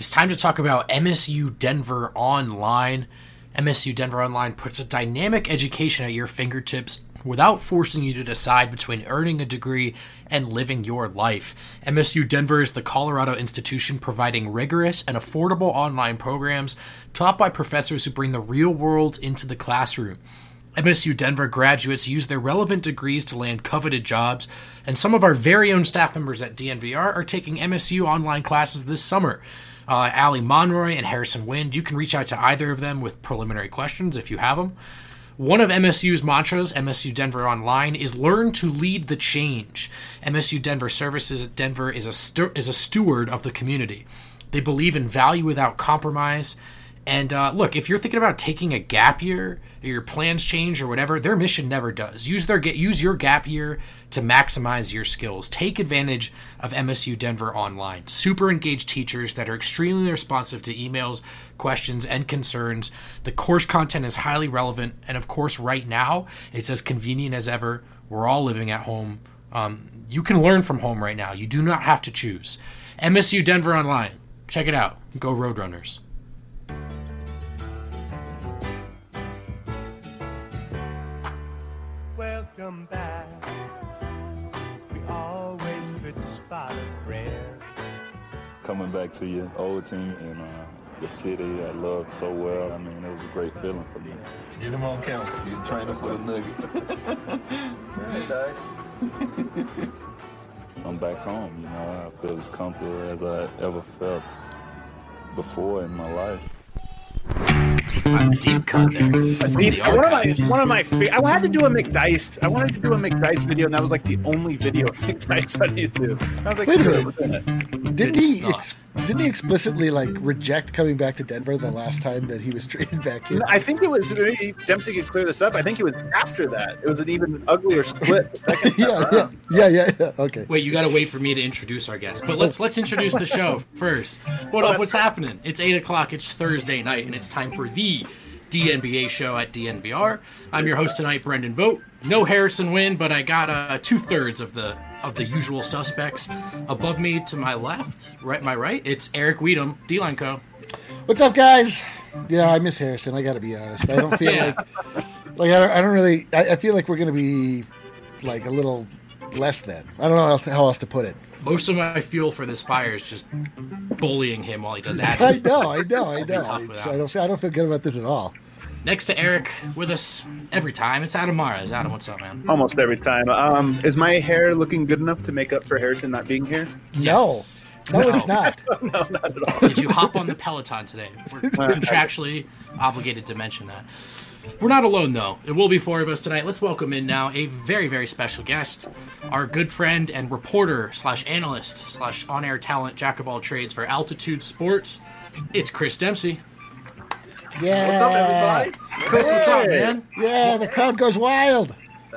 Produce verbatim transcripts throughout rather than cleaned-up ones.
It's time to talk about M S U Denver Online. M S U Denver Online puts a dynamic education at your fingertips without forcing you to decide between earning a degree and living your life. M S U Denver is the Colorado institution providing rigorous and affordable online programs taught by professors who bring the real world into the classroom. M S U Denver graduates use their relevant degrees to land coveted jobs, and some of our very own staff members at D N V R are taking M S U online classes this summer. Uh, Allie Monroy and Harrison Wind, you can reach out to either of them with preliminary questions if you have them. One of M S U's mantras, M S U Denver Online, is learn to lead the change. M S U Denver Services at Denver is a, stu- is a steward of the community. They believe in value without compromise. And uh, look, if you're thinking about taking a gap year, or your plans change or whatever, their mission never does. Use their use your gap year to maximize your skills. Take advantage of M S U Denver Online. Super engaged teachers that are extremely responsive to emails, questions, and concerns. The course content is highly relevant, and of course, right now, it's as convenient as ever. We're all living at home. Um, you can learn from home right now. You do not have to choose. M S U Denver Online. Check it out. Go Roadrunners. Welcome back. We always could spot a friend. Coming back to your old team and uh, the city I love so well, I mean, it was a great feeling for me. Get him on camera. He's training for the Nuggets. Right, Dad. I'm back home, you know. I feel as comfortable as I ever felt before in my life. A deep cut there. A deep, The one of my, archives. one of my fa- I had to do a McDice. I wanted to do a McDice video, and that was like the only video of McDice on YouTube. I was like, Wait a screw minute. it. Didn't Good he? stuff. Ex- didn't he explicitly like reject coming back to Denver the last time that he was traded back in? I think it was maybe Dempsey could clear this up. I think it was after that. It was an even uglier split. yeah, yeah, yeah, yeah, yeah. Okay. Wait, you gotta wait for me to introduce our guest. But let's let's introduce the show first. What up? What's happening? It's eight o'clock. It's Thursday night, and it's time for the D N B A show at D N V R. I'm your host tonight, Brendan Vogt. No Harrison Wind, but I got uh, two thirds of the of the usual suspects. Above me, to my left, right, my right, it's Eric Weedham, D-Line Co. What's up, guys? Yeah, I miss Harrison. I got to be honest. I don't feel Yeah. like like I don't, I don't really. I, I feel like we're gonna be like a little less than. I don't know how else, how else to put it. Most of my fuel for this fire is just bullying him while he does I admin. know, I know, I I'll be know. tough It's- without I don't. I don't feel good about this at all. Next to Eric, with us every time, it's Adam Mares. Adam, what's up, man? Almost every time. Um, is my hair looking good enough to make up for Harrison not being here? Yes. No, no, it's not. No, not at all. Did you hop on the Peloton today? We're contractually obligated to mention that. We're not alone, though. It will be four of us tonight. Let's welcome in now a very, very special guest, our good friend and reporter slash analyst slash on-air talent, jack of all trades for Altitude Sports. It's Chris Dempsey. Yeah. What's up, everybody? Chris, what's up, man? Yeah, the crowd goes wild.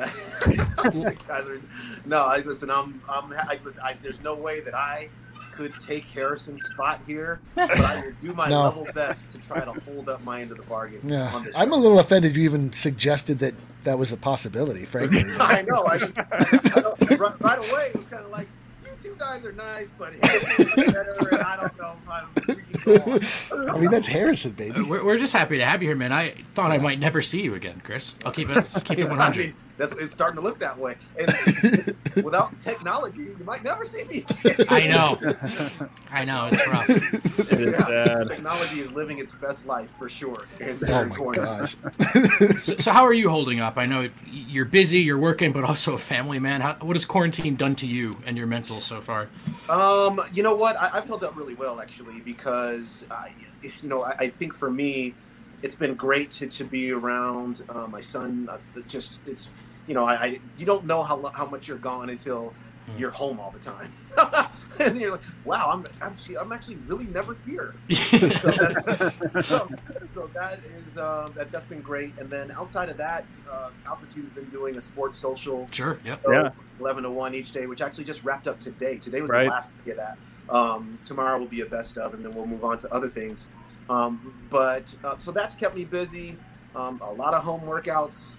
Guys are- no, I listen. I'm. I'm. I, listen, I, there's no way that I could take Harrison's spot here, but I will do my No. level best to try to hold up my end of the bargain Yeah, on this. I'm a show. little offended you even suggested that that was a possibility. Frankly, I know. I just I don't, right, right away. It was kind of like, you two guys are nice, but Harrison's better, and I don't know if I'm freaking go on. I mean that's Harrison, baby. We're, we're just happy to have you here, man. I thought I might never see you again, Chris. I'll keep it keep it one I hundred. mean, that's, it's starting to look that way. And without technology, you might never see me again. I know. I know. It's rough. It is sad. Technology is living its best life for sure. And Oh my gosh. So, so how are you holding up? I know you're busy, you're working, but also a family man. How, what has quarantine done to you and your mental so far? Um, you know what? I, I've held up really well actually because, I, you know, I, I think for me, it's been great to, to be around uh, my son. Uh, it just it's you know I, I you don't know how lo- how much you're gone until Mm. you're home all the time, and then you're like, wow, I'm actually I'm actually really never here. so, that's, so, so that is uh, that that's been great. And then outside of that, uh, Altitude's been doing a sports social. Sure. Yep. So Yeah. eleven to one each day, which actually just wrapped up today. Today was Right. the last to get at. Um, tomorrow will be a best of, and then we'll move on to other things. Um, but uh, so that's kept me busy. um, a lot of home workouts.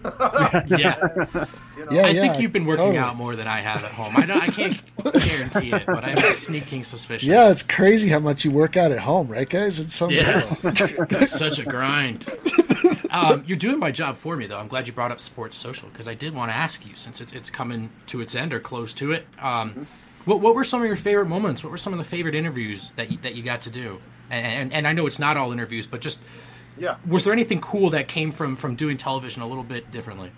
Yeah. You know, Yeah, I think you've been working totally. out more than I have at home. I know I can't guarantee it, but I have a sneaking suspicion. Yeah, it's crazy how much you work out at home, right, guys? It's so Yeah, it's such a grind. Um, you're doing my job for me, though. I'm glad you brought up Sports Social because I did want to ask you, since it's it's coming to its end or close to it. Um, Mm-hmm. what what were some of your favorite moments? What were some of the favorite interviews that you, that you got to do? And, and and I know it's not all interviews, but just yeah. was there anything cool that came from from doing television a little bit differently?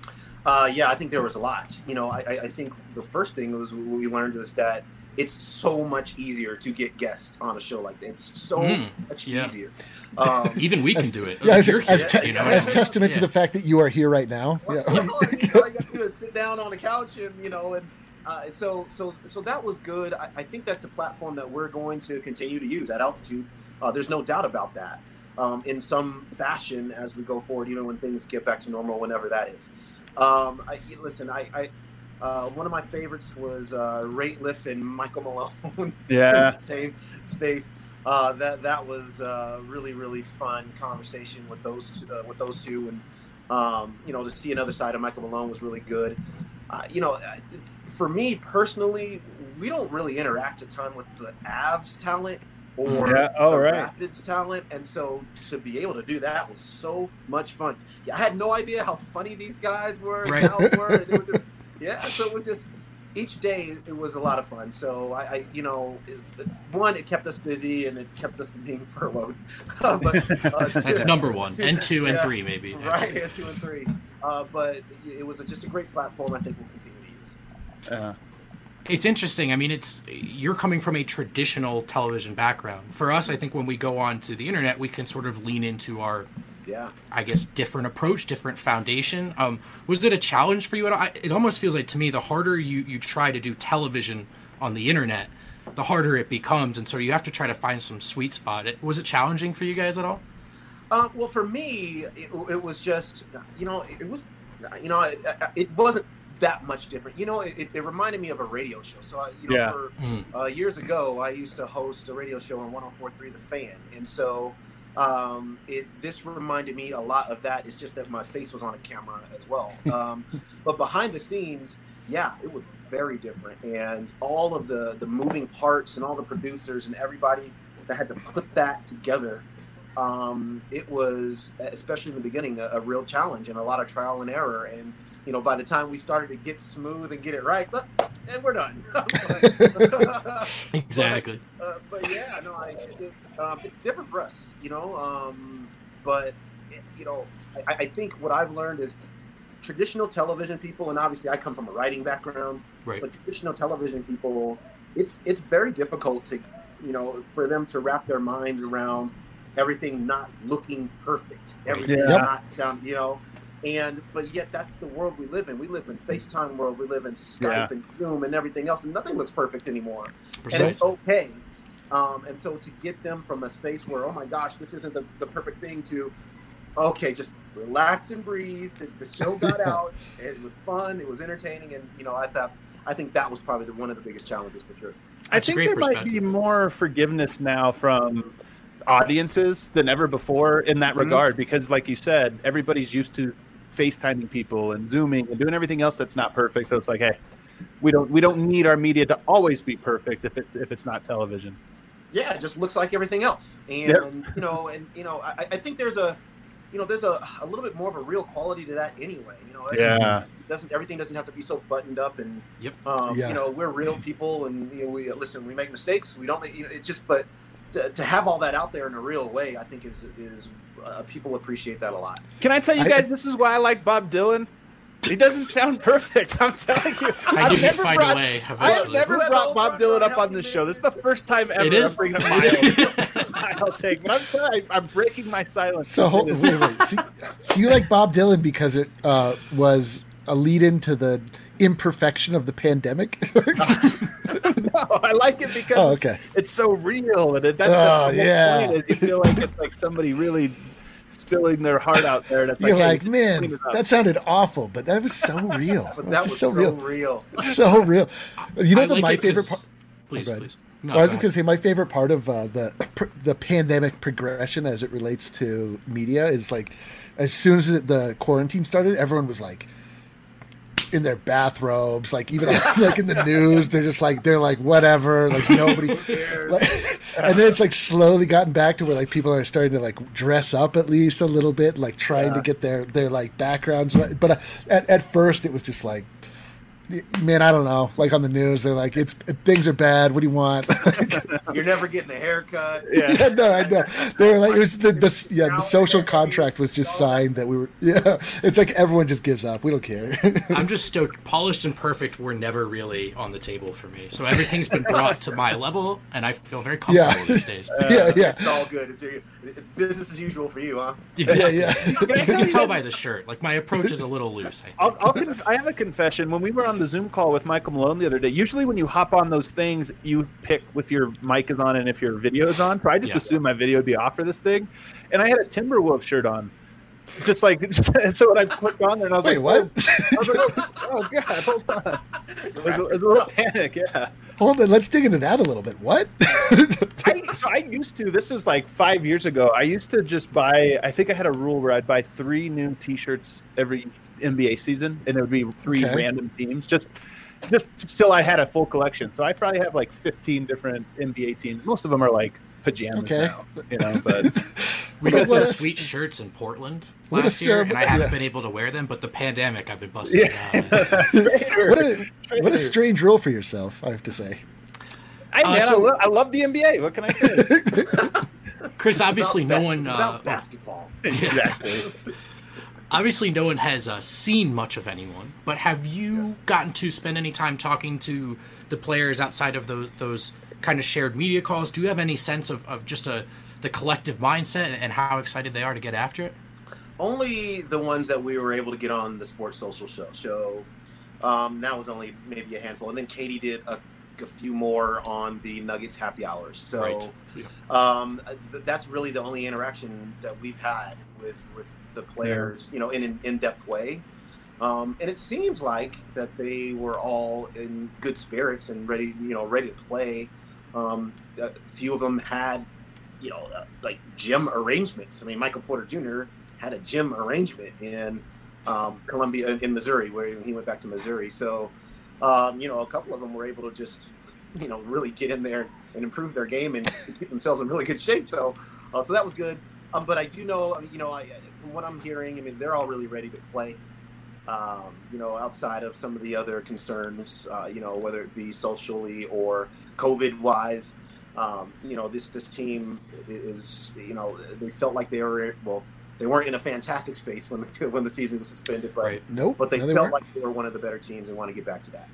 Uh, yeah, I think there was a lot. You know, I, I I think the first thing was what we learned is that it's so much easier to get guests on a show like that. It's so Mm, much yeah. easier. Um, Even we can As- do it. Yeah, as, You're as, here, te- you know? as testament to Yeah. the fact that you are here right now. Well, Yeah. well, I mean, all you got to do is sit down on the couch, and you know, and uh, so so so that was good. I, I think that's a platform that we're going to continue to use at Altitude. Uh, there's no doubt about that. Um, in some fashion, as we go forward, even when things get back to normal, whenever that is. Um, I, listen, I, I uh, one of my favorites was uh, Rate Lift and Michael Malone. Yeah. in the same space. Uh, that that was uh, really really fun conversation with those uh, with those two, and um, you know, to see another side of Michael Malone was really good. Uh, you know, for me personally, we don't really interact a ton with the Avs talent or Yeah. Oh, the right. Rapids talent, and so to be able to do that was so much fun. Yeah, I had no idea how funny these guys were, and Right. how it were. And it was just, yeah, so it was just each day it was a lot of fun. So I, I you know, it, one, it kept us busy and it kept us from being furloughed. but uh, That's two- number one, two- and two, and yeah, three, maybe. Right, and two and three. Uh, but it was just a great platform. I think we'll continue to use. Uh, It's interesting. I mean, it's you're coming from a traditional television background. For us, I think when we go on to the internet, we can sort of lean into our, Yeah. I guess, different approach, different foundation. Um, was it a challenge for you at all? I- It almost feels like to me the harder you, you try to do television on the internet, the harder it becomes, and so you have to try to find some sweet spot. It, was it challenging for you guys at all? Uh, well, for me, it, it was just, you know, it was, you know, it, it wasn't that much different. You know, it, it reminded me of a radio show. So, I, you know, Yeah. for, Mm. uh, years ago, I used to host a radio show on one oh four point three The Fan. And so um, it, this reminded me a lot of that. It's just that my face was on a camera as well. Um, but behind the scenes, yeah, it was very different. And all of the, the moving parts and all the producers and everybody that had to put that together, um, it was, especially in the beginning, a, a real challenge and a lot of trial and error. And, you know, by the time we started to get smooth and get it right, look, and we're done. But- Exactly. uh, but yeah, no, I, it's um, it's different for us, you know. Um, but it, you know, I, I think what I've learned is traditional television people, and obviously I come from a writing background, Right. but traditional television people, it's it's very difficult to, you know, for them to wrap their minds around everything not looking perfect, everything Yeah. not sound, you know. And but yet that's the world we live in. We live in FaceTime world. We live in Skype Yeah. and Zoom and everything else, and nothing looks perfect anymore. And Precisely. it's okay. Um, and so to get them from a space where, oh my gosh, this isn't the, the perfect thing, to, okay, just relax and breathe. The, the show got out. It was fun. It was entertaining. And, you know, I thought, I think that was probably the, one of the biggest challenges for sure. I That's a think great there might be perspective. more forgiveness now from audiences than ever before in that Mhm. regard, because like you said, everybody's used to FaceTiming people and Zooming and doing everything else that's not perfect. So it's like, hey, we don't we don't need our media to always be perfect if it's if it's not television. Yeah, it just looks like everything else. And, Yep. you know, and, you know, I, I think there's a, you know, there's a, a little bit more of a real quality to that anyway. You know, Yeah. It doesn't, everything doesn't have to be so buttoned up, and, Yep. um, Yeah. you know, we're real people, and, you know, we listen, we make mistakes. We don't make, you know, it just, but to, to have all that out there in a real way, I think is, is, uh, people appreciate that a lot. Can I tell you I- guys, this is why I like Bob Dylan? He doesn't sound perfect. I'm telling you. I I've knew he'd never find brought- a way I have eventually. never Whoever brought Bob Oprah Dylan up helped on me this make show. This is the first time ever It is. I'm bringing up my own I'll take. But I'm telling you, I'm breaking my silence. So hold, wait, wait. So, so you like Bob Dylan because it uh, was a lead into the imperfection of the pandemic? No, I like it because Oh, it's- okay. it's, so real, and it, that's, Oh, that's the whole yeah. point. Is you feel like it's like somebody really spilling their heart out there. That's You're like, like, hey, man, clean it up." that sounded awful, but that was so real. But that was so so real. real. So real. You know I the like my it favorite 'cause- part. Please, go ahead. please. No, well, I was go going to say my favorite part of uh, the the pandemic progression as it relates to media is like, as soon as the quarantine started, everyone was like in their bathrobes, like even like in the news, they're just like they're like whatever, like nobody. Like, and then it's like slowly gotten back to where like people are starting to like dress up at least a little bit, like trying Yeah. to get their their like backgrounds right. But uh, at at first it was just like, man, I don't know. Like on the news, they're like, "It's things are bad. What do you want?" You're never getting a haircut. Yeah. yeah, no, I know. They were like, it was the, the yeah, the social contract was just signed that we were. Yeah, it's like everyone just gives up. We don't care. I'm just stoked. Polished and perfect were never really on the table for me. So everything's been brought to my level, and I feel very comfortable Yeah. these days. yeah, yeah, It's all good. It's, it's business as usual for you, huh? yeah, Exactly. yeah. You can tell by the shirt. Like my approach is a little loose. I think. I'll, I'll conf- I have a confession. When we were on the Zoom call with Michael Malone the other day, usually when you hop on those things, you pick if your mic is on and if your video is on. So I just Yeah. assumed my video would be off for this thing, and I had a Timberwolf shirt on. Just like so, when I clicked on there, and I was Wait, like, what? I was like, oh, oh god, hold on. It was, a, it was a little panic, yeah. Hold on, let's dig into that a little bit. What? I, so I used to. This was like five years ago. I used to just buy. I think I had a rule where I'd buy three new T-shirts every N B A season, and it would be three Okay. random teams. Just, just till I had a full collection. So I probably have like fifteen different N B A teams. Most of them are like pajamas Okay. now, you know. But We Let got those us- sweet shirts in Portland Let last us, year, uh, and I haven't yeah. been able to wear them. But the pandemic, I've been busting Yeah. it out. what a what a strange rule for yourself, I have to say. I, Uh, man, I, so- lo- I love the N B A. What can I say? Chris, obviously, It's no about one. ba- it's Uh, about basketball. exactly. obviously, no one has uh, seen much of anyone. But have you gotten to spend any time talking to the players outside of those those kind of shared media calls? Do you have any sense of, of just a the collective mindset and how excited they are to get after it? Only the ones that we were able to get on the Sports Social show. So um, that was only maybe a handful, and then Katie did a, a few more on the Nuggets happy hours. So Right. Yeah. um, th- that's really the only interaction that we've had with with the players, you know, in an in-depth way. Um, and it seems like that they were all in good spirits and ready, you know, ready to play. Um, a few of them had, you know, uh, like gym arrangements. I mean, Michael Porter Junior had a gym arrangement in um, Columbia, in Missouri, where he went back to Missouri. So, um, you know, a couple of them were able to just, you know, really get in there and improve their game and keep themselves in really good shape. So, uh, so that was good. Um, but I do know, I mean, you know, I, from what I'm hearing, I mean, they're all really ready to play. Um, you know, outside of some of the other concerns, uh, you know, whether it be socially or COVID-wise, um, you know, this this team is, you know, they felt like they were, well, they weren't in a fantastic space when the when the season was suspended, but Right. Nope. but they no, they felt weren't. like they were one of the better teams and want to get back to that.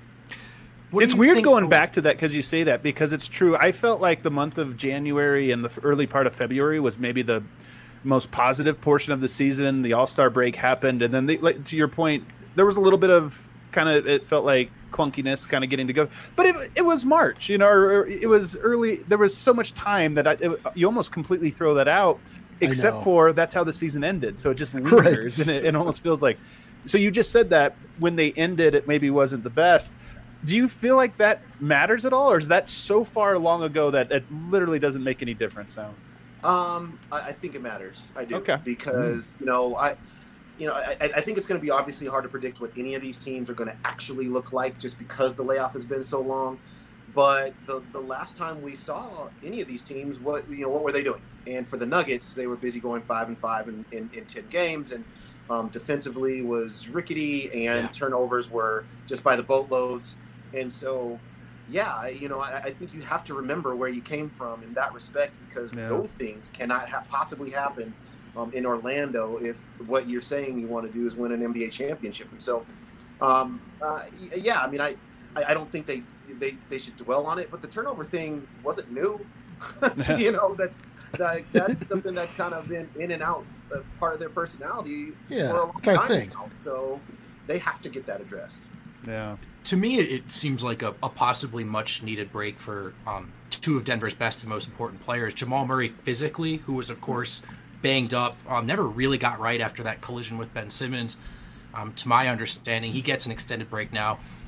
What do It's you weird think- going back to that because you say that because it's true. I felt like the month of January and the f- early part of February was maybe the most positive portion of the season. The All-Star break happened, and then they, like, to your point, there was a little bit of kind of, it felt like clunkiness kind of getting to go. But it, it was March, you know, or, or it was early. There was so much time that I, it, you almost completely throw that out, except know. for that's how the season ended. So it just Right. lingers, and it, it almost feels like. So you just said that when they ended, it maybe wasn't the best. Do you feel like that matters at all, or is that so far long ago that it literally doesn't make any difference now? Um, I, I think it matters. I do. Okay. Because, you know, I, you know, I, I think it's going to be obviously hard to predict what any of these teams are going to actually look like just because the layoff has been so long. But the the last time we saw any of these teams, what you know, what were they doing? And for the Nuggets, they were busy going five and five in, in, in ten games, and um, defensively was rickety, and Yeah. turnovers were just by the boatloads. And so, yeah, I- you know, I, I think you have to remember where you came from in that respect, because Yeah. those things cannot ha- possibly happen um, in Orlando if what you're saying you want to do is win an N B A championship. And so, um, uh, y- yeah, I mean, I, I I don't think they, they, they should dwell on it, but the turnover thing wasn't new. you know, that's that, that's something that's kind of been in and out, uh, part of their personality Yeah, for a long it's our time thing. now. So they have to get that addressed. Yeah. To me, it it seems like a, a possibly much needed break for um, two of Denver's best and most important players. Jamal Murray physically, who was, of course, banged up, um, never really got right after that collision with Ben Simmons. Um, to my understanding, he gets an extended break now.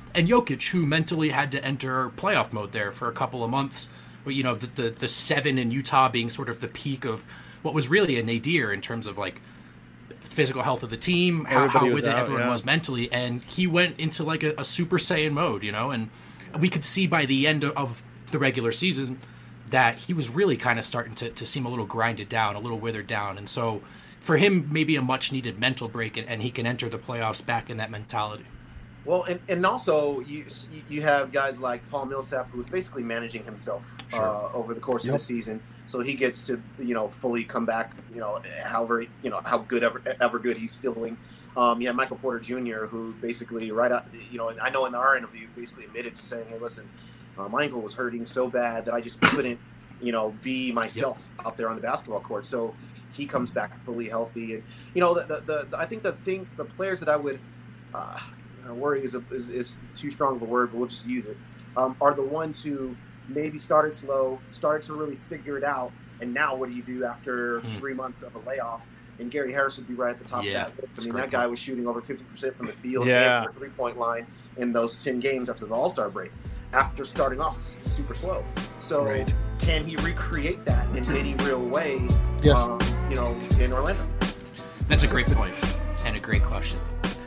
and Jokic, who mentally had to enter playoff mode there for a couple of months. You know, the the, the seven in Utah being sort of the peak of what was really a nadir in terms of like physical health of the team, how, how with it out, everyone yeah. was mentally, and he went into like a, a Super Saiyan mode, you know, and we could see by the end of the regular season that he was really kind of starting to, to seem a little grinded down, a little withered down, and so for him, maybe a much needed mental break, and, and he can enter the playoffs back in that mentality. Well, and, and also you you have guys like Paul Millsap, who was basically managing himself sure. uh, over the course yep. of the season, so he gets to you know fully come back, you know, however you know how good ever ever good he's feeling. Um, you have Michael Porter Junior, who basically right out, you know, and I know in our interview basically admitted to saying, "Hey, listen, uh, my ankle was hurting so bad that I just couldn't, you know, be myself yep. out there on the basketball court." So he comes back fully healthy, and you know, the the, the I think the thing, the players that I would. Uh, worry is, a, is is too strong of a word, but we'll just use it, um, are the ones who maybe started slow, started to really figure it out, and now what do you do after mm. three months of a layoff? And Gary Harris would be right at the top yeah, of that list. I mean, that guy point. was shooting over fifty percent from the field yeah. and the three-point line in those ten games after the All-Star break, after starting off super slow. So right. can he recreate that in any real way, yes. um, you know, in Orlando? That's a great point and a great question.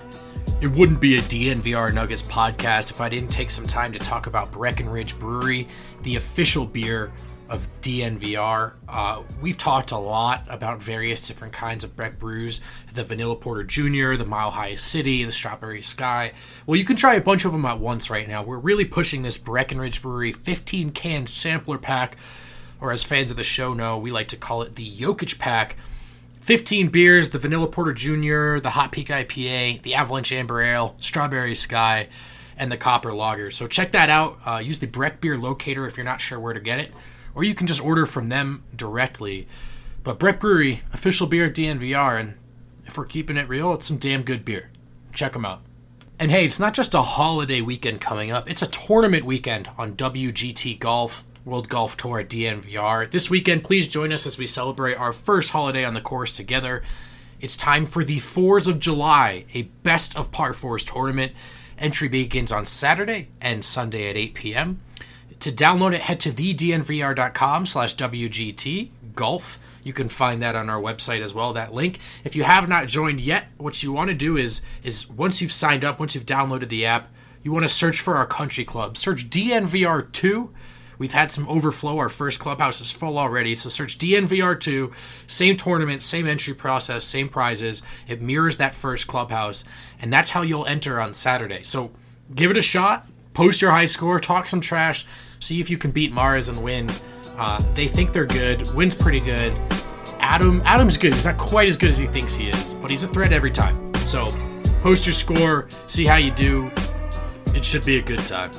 It wouldn't be a D N V R Nuggets podcast if I didn't take some time to talk about Breckenridge Brewery, the official beer of D N V R. Uh, we've talked a lot about various different kinds of Breck brews, the Vanilla Porter Junior, the Mile High City, the Strawberry Sky. Well, you can try a bunch of them at once right now. We're really pushing this Breckenridge Brewery fifteen can sampler pack, or as fans of the show know, we like to call it the Jokic pack. fifteen beers, the Vanilla Porter Junior, the Hot Peak I P A, the Avalanche Amber Ale, Strawberry Sky, and the Copper Lager. So check that out. Uh, use the Breck Beer Locator if you're not sure where to get it, or you can just order from them directly. But Breck Brewery, official beer at D N V R, and if we're keeping it real, it's some damn good beer. Check them out. And hey, it's not just a holiday weekend coming up, it's a tournament weekend on W G T Golf, World Golf Tour at D N V R. This weekend, please join us as we celebrate our first holiday on the course together. It's time for the Fours of July, a best of par fours tournament. Entry begins on Saturday and Sunday at eight p.m. To download it, head to the d n v r dot com slash w g t golf. You can find that on our website as well, that link. If you have not joined yet, what you want to do is, is once you've signed up, once you've downloaded the app, you want to search for our country club. Search D N V R two. We've had some overflow. Our first clubhouse is full already. So search D N V R two. Same tournament, same entry process, same prizes. It mirrors that first clubhouse. And that's how you'll enter on Saturday. So give it a shot. Post your high score. Talk some trash. See if you can beat Mars and win. Uh, they think they're good. Win's pretty good. Adam, Adam's good. He's not quite as good as he thinks he is. But he's a threat every time. So post your score. See how you do. It should be a good time.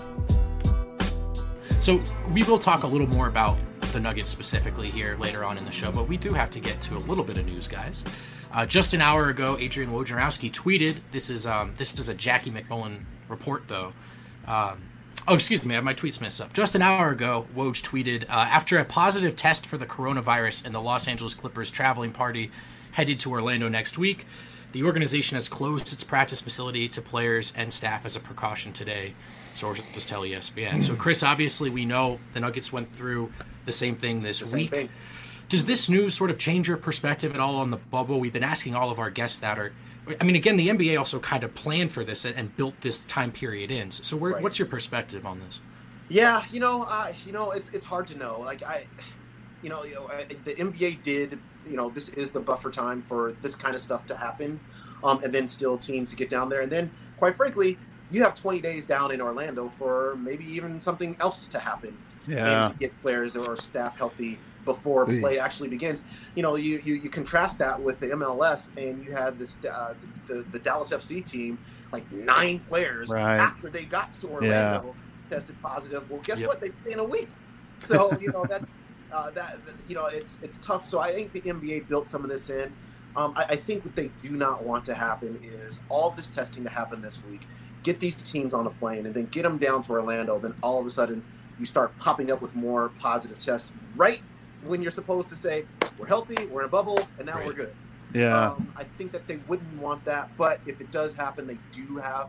So we will talk a little more about the Nuggets specifically here later on in the show, but we do have to get to a little bit of news, guys. Uh, just an hour ago, Adrian Wojnarowski tweeted. This is um, this is a Jackie McMullen report, though. Um, oh, excuse me, I have my tweets messed up. Just an hour ago, Woj tweeted, uh, after a positive test for the coronavirus in the Los Angeles Clippers traveling party headed to Orlando next week, the organization has closed its practice facility to players and staff as a precaution today. Sources tell E S P N. So, Chris, obviously we know the Nuggets went through the same thing this the week. Same thing. Does this news sort of change your perspective at all on the bubble? We've been asking all of our guests that. Or, I mean, again, the N B A also kind of planned for this and built this time period in. So, where, right. what's your perspective on this? Yeah, you know, uh, you know, it's it's hard to know. Like I, you know, you know, I, the N B A did. You know, this is the buffer time for this kind of stuff to happen, um, and then still teams to get down there, and then, quite frankly, you have twenty days down in Orlando for maybe even something else to happen, yeah. and to get players or staff healthy before play actually begins. You know, you, you, you contrast that with the M L S, and you have this uh, the the Dallas F C team, like nine players right. after they got to Orlando yeah. tested positive. Well, guess yep. what? They play in a week. So you know that's uh, that you know it's it's tough. So I think the N B A built some of this in. Um, I, I think what they do not want to happen is all this testing to happen this week. Get these teams on a plane and then get them down to Orlando. Then all of a sudden you start popping up with more positive tests right when you're supposed to say we're healthy, we're in a bubble, and now right. we're good. Yeah. Um, I think that they wouldn't want that, but if it does happen, they do have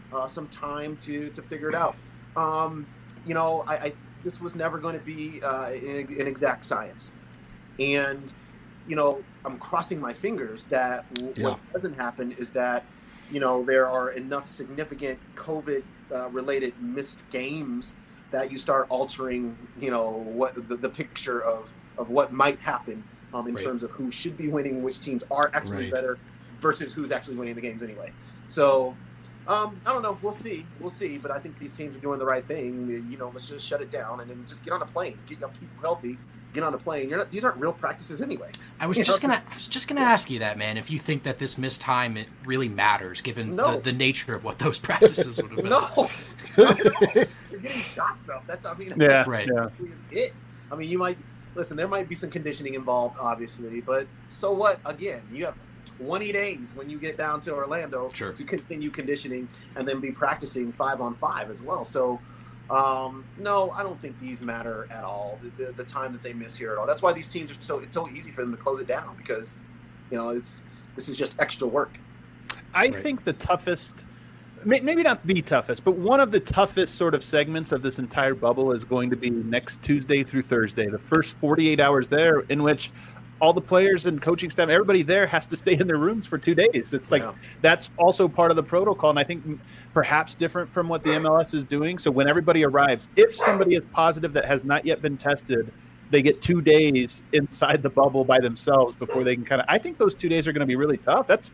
uh, some time to to figure it out. Um, you know, I, I this was never going to be uh, an, an exact science, and you know, I'm crossing my fingers that w- Yeah. what doesn't happen is that you know there are enough significant COVID uh, related missed games that you start altering, you know, what the, the picture of of what might happen um, in Right. terms of who should be winning, which teams are actually Right. better versus who's actually winning the games anyway. So. Um, I don't know. We'll see. We'll see. But I think these teams are doing the right thing. You know, let's just shut it down and then just get on a plane. Get your people healthy. Get on a plane. You're not, these aren't real practices anyway. I was You just know? gonna, I was just gonna ask you that, man. If you think that this missed time it really matters, given No. the, the nature of what those practices would have been. No, not at all. You're getting shots up. That's I mean, Yeah, Right. yeah. that is it. I mean, you might listen. There might be some conditioning involved, obviously, but so what? Again, you have twenty days when you get down to Orlando Sure. to continue conditioning and then be practicing five on five as well. So, um, no, I don't think these matter at all. The, the, the time that they miss here at all. That's why these teams are so. It's so easy for them to close it down because, you know, it's this is just extra work. I Right. think the toughest, may- maybe not the toughest, but one of the toughest sort of segments of this entire bubble is going to be next Tuesday through Thursday, the first forty-eight hours there, in which all the players and coaching staff, everybody there has to stay in their rooms for two days. It's like Yeah. that's also part of the protocol, and I think m- perhaps different from what the M L S is doing. So when everybody arrives, if somebody is positive that has not yet been tested, they get two days inside the bubble by themselves before they can kind of. I think those two days are going to be really tough. That's.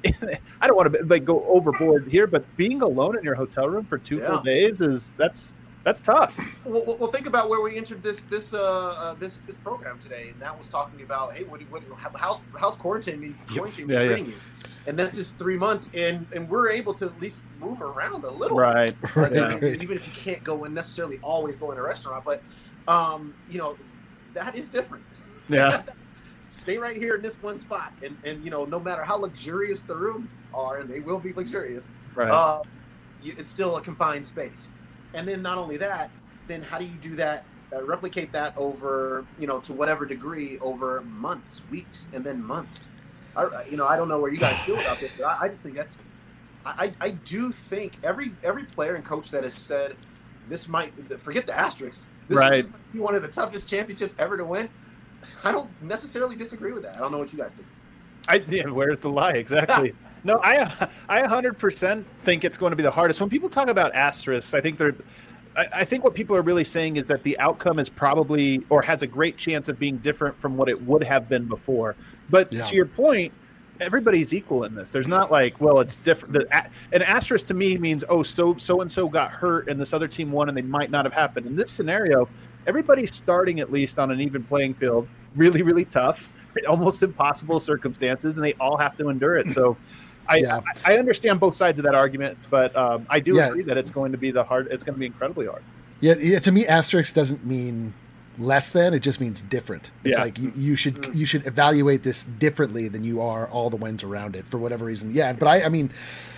I don't want to like go overboard here, but being alone in your hotel room for two Yeah. full days is that's that's tough. Well, well, well, think about where we entered this this uh, uh this this program today, and that was talking about, hey, what, what how's how's quarantine been, quarantine been Yeah, yeah. treating you? And this is three months, and and we're able to at least move around a little, Right. bit. Yeah. Right. Even if you can't go and necessarily always go in a restaurant, but um, you know, that is different. Yeah. Stay right here in this one spot, and and you know, no matter how luxurious the rooms are, and they will be luxurious, Right. uh, you, it's still a confined space. And then not only that, then how do you do that, uh, replicate that over, you know, to whatever degree over months, weeks, and then months? I, I- you know, I don't know where you guys feel about this, but I, I just think that's, I, I I do think every every player and coach that has said this might, forget the asterisks, this Right. might be one of the toughest championships ever to win. I don't necessarily disagree with that. I don't know what you guys think. I yeah, where's the lie exactly? No, I I one hundred percent think it's going to be the hardest. When people talk about asterisks, I think they're I, I think what people are really saying is that the outcome is probably or has a great chance of being different from what it would have been before. But Yeah. to your point, everybody's equal in this. There's not like, well, it's different. The, a- an asterisk to me means, oh, so so and so got hurt and this other team won and they might not have happened. In this scenario, everybody's starting at least on an even playing field. Really, really tough, almost impossible circumstances, and they all have to endure it. So. I, Yeah. I I understand both sides of that argument, but um, I do Yeah. agree that it's going to be the hard. It's going to be incredibly hard. Yeah, yeah, to me, asterisk doesn't mean less than; it just means different. It's Yeah. like you, you should you should evaluate this differently than you are all the wins around it for whatever reason. Yeah, but I, I mean,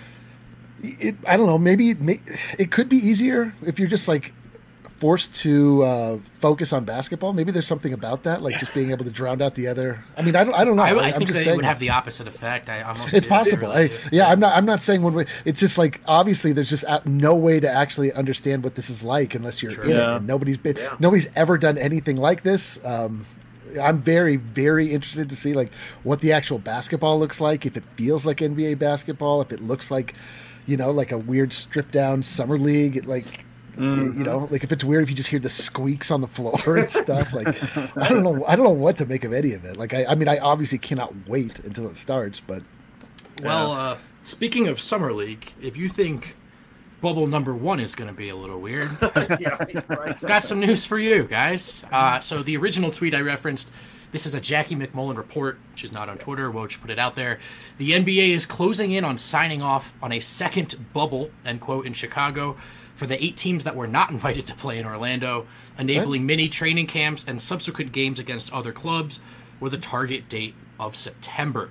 it, I don't know. Maybe it, may, it could be easier if you're just like forced to uh, focus on basketball. Maybe there's something about that, like just being able to drown out the other. I mean, I don't, I don't know. I, I I'm think just that it saying would have the opposite effect. I almost. it's do, possible. really. I, yeah, I'm not. I'm not saying one way. It's just like obviously there's just a- no way to actually understand what this is like unless you're Sure. in Yeah. it. And nobody's been. Yeah. Nobody's ever done anything like this. Um, I'm very, very interested to see like what the actual basketball looks like. If it feels like N B A basketball, if it looks like, you know, like a weird stripped down summer league, it, like. Mm-hmm. You know, like if it's weird if you just hear the squeaks on the floor and stuff. Like, I don't know. I don't know what to make of any of it. Like, I, I mean, I obviously cannot wait until it starts. But Well, uh, speaking of summer league, if you think bubble number one is going to be a little weird, yeah, right. I've got some news for you guys. Uh, so the original tweet I referenced, this is a Jackie McMullen report. She's not on Twitter. Woj put it out there. The N B A is closing in on signing off on a second bubble, end quote, in Chicago for the eight teams that were not invited to play in Orlando, enabling mini training camps and subsequent games against other clubs with a target date of September.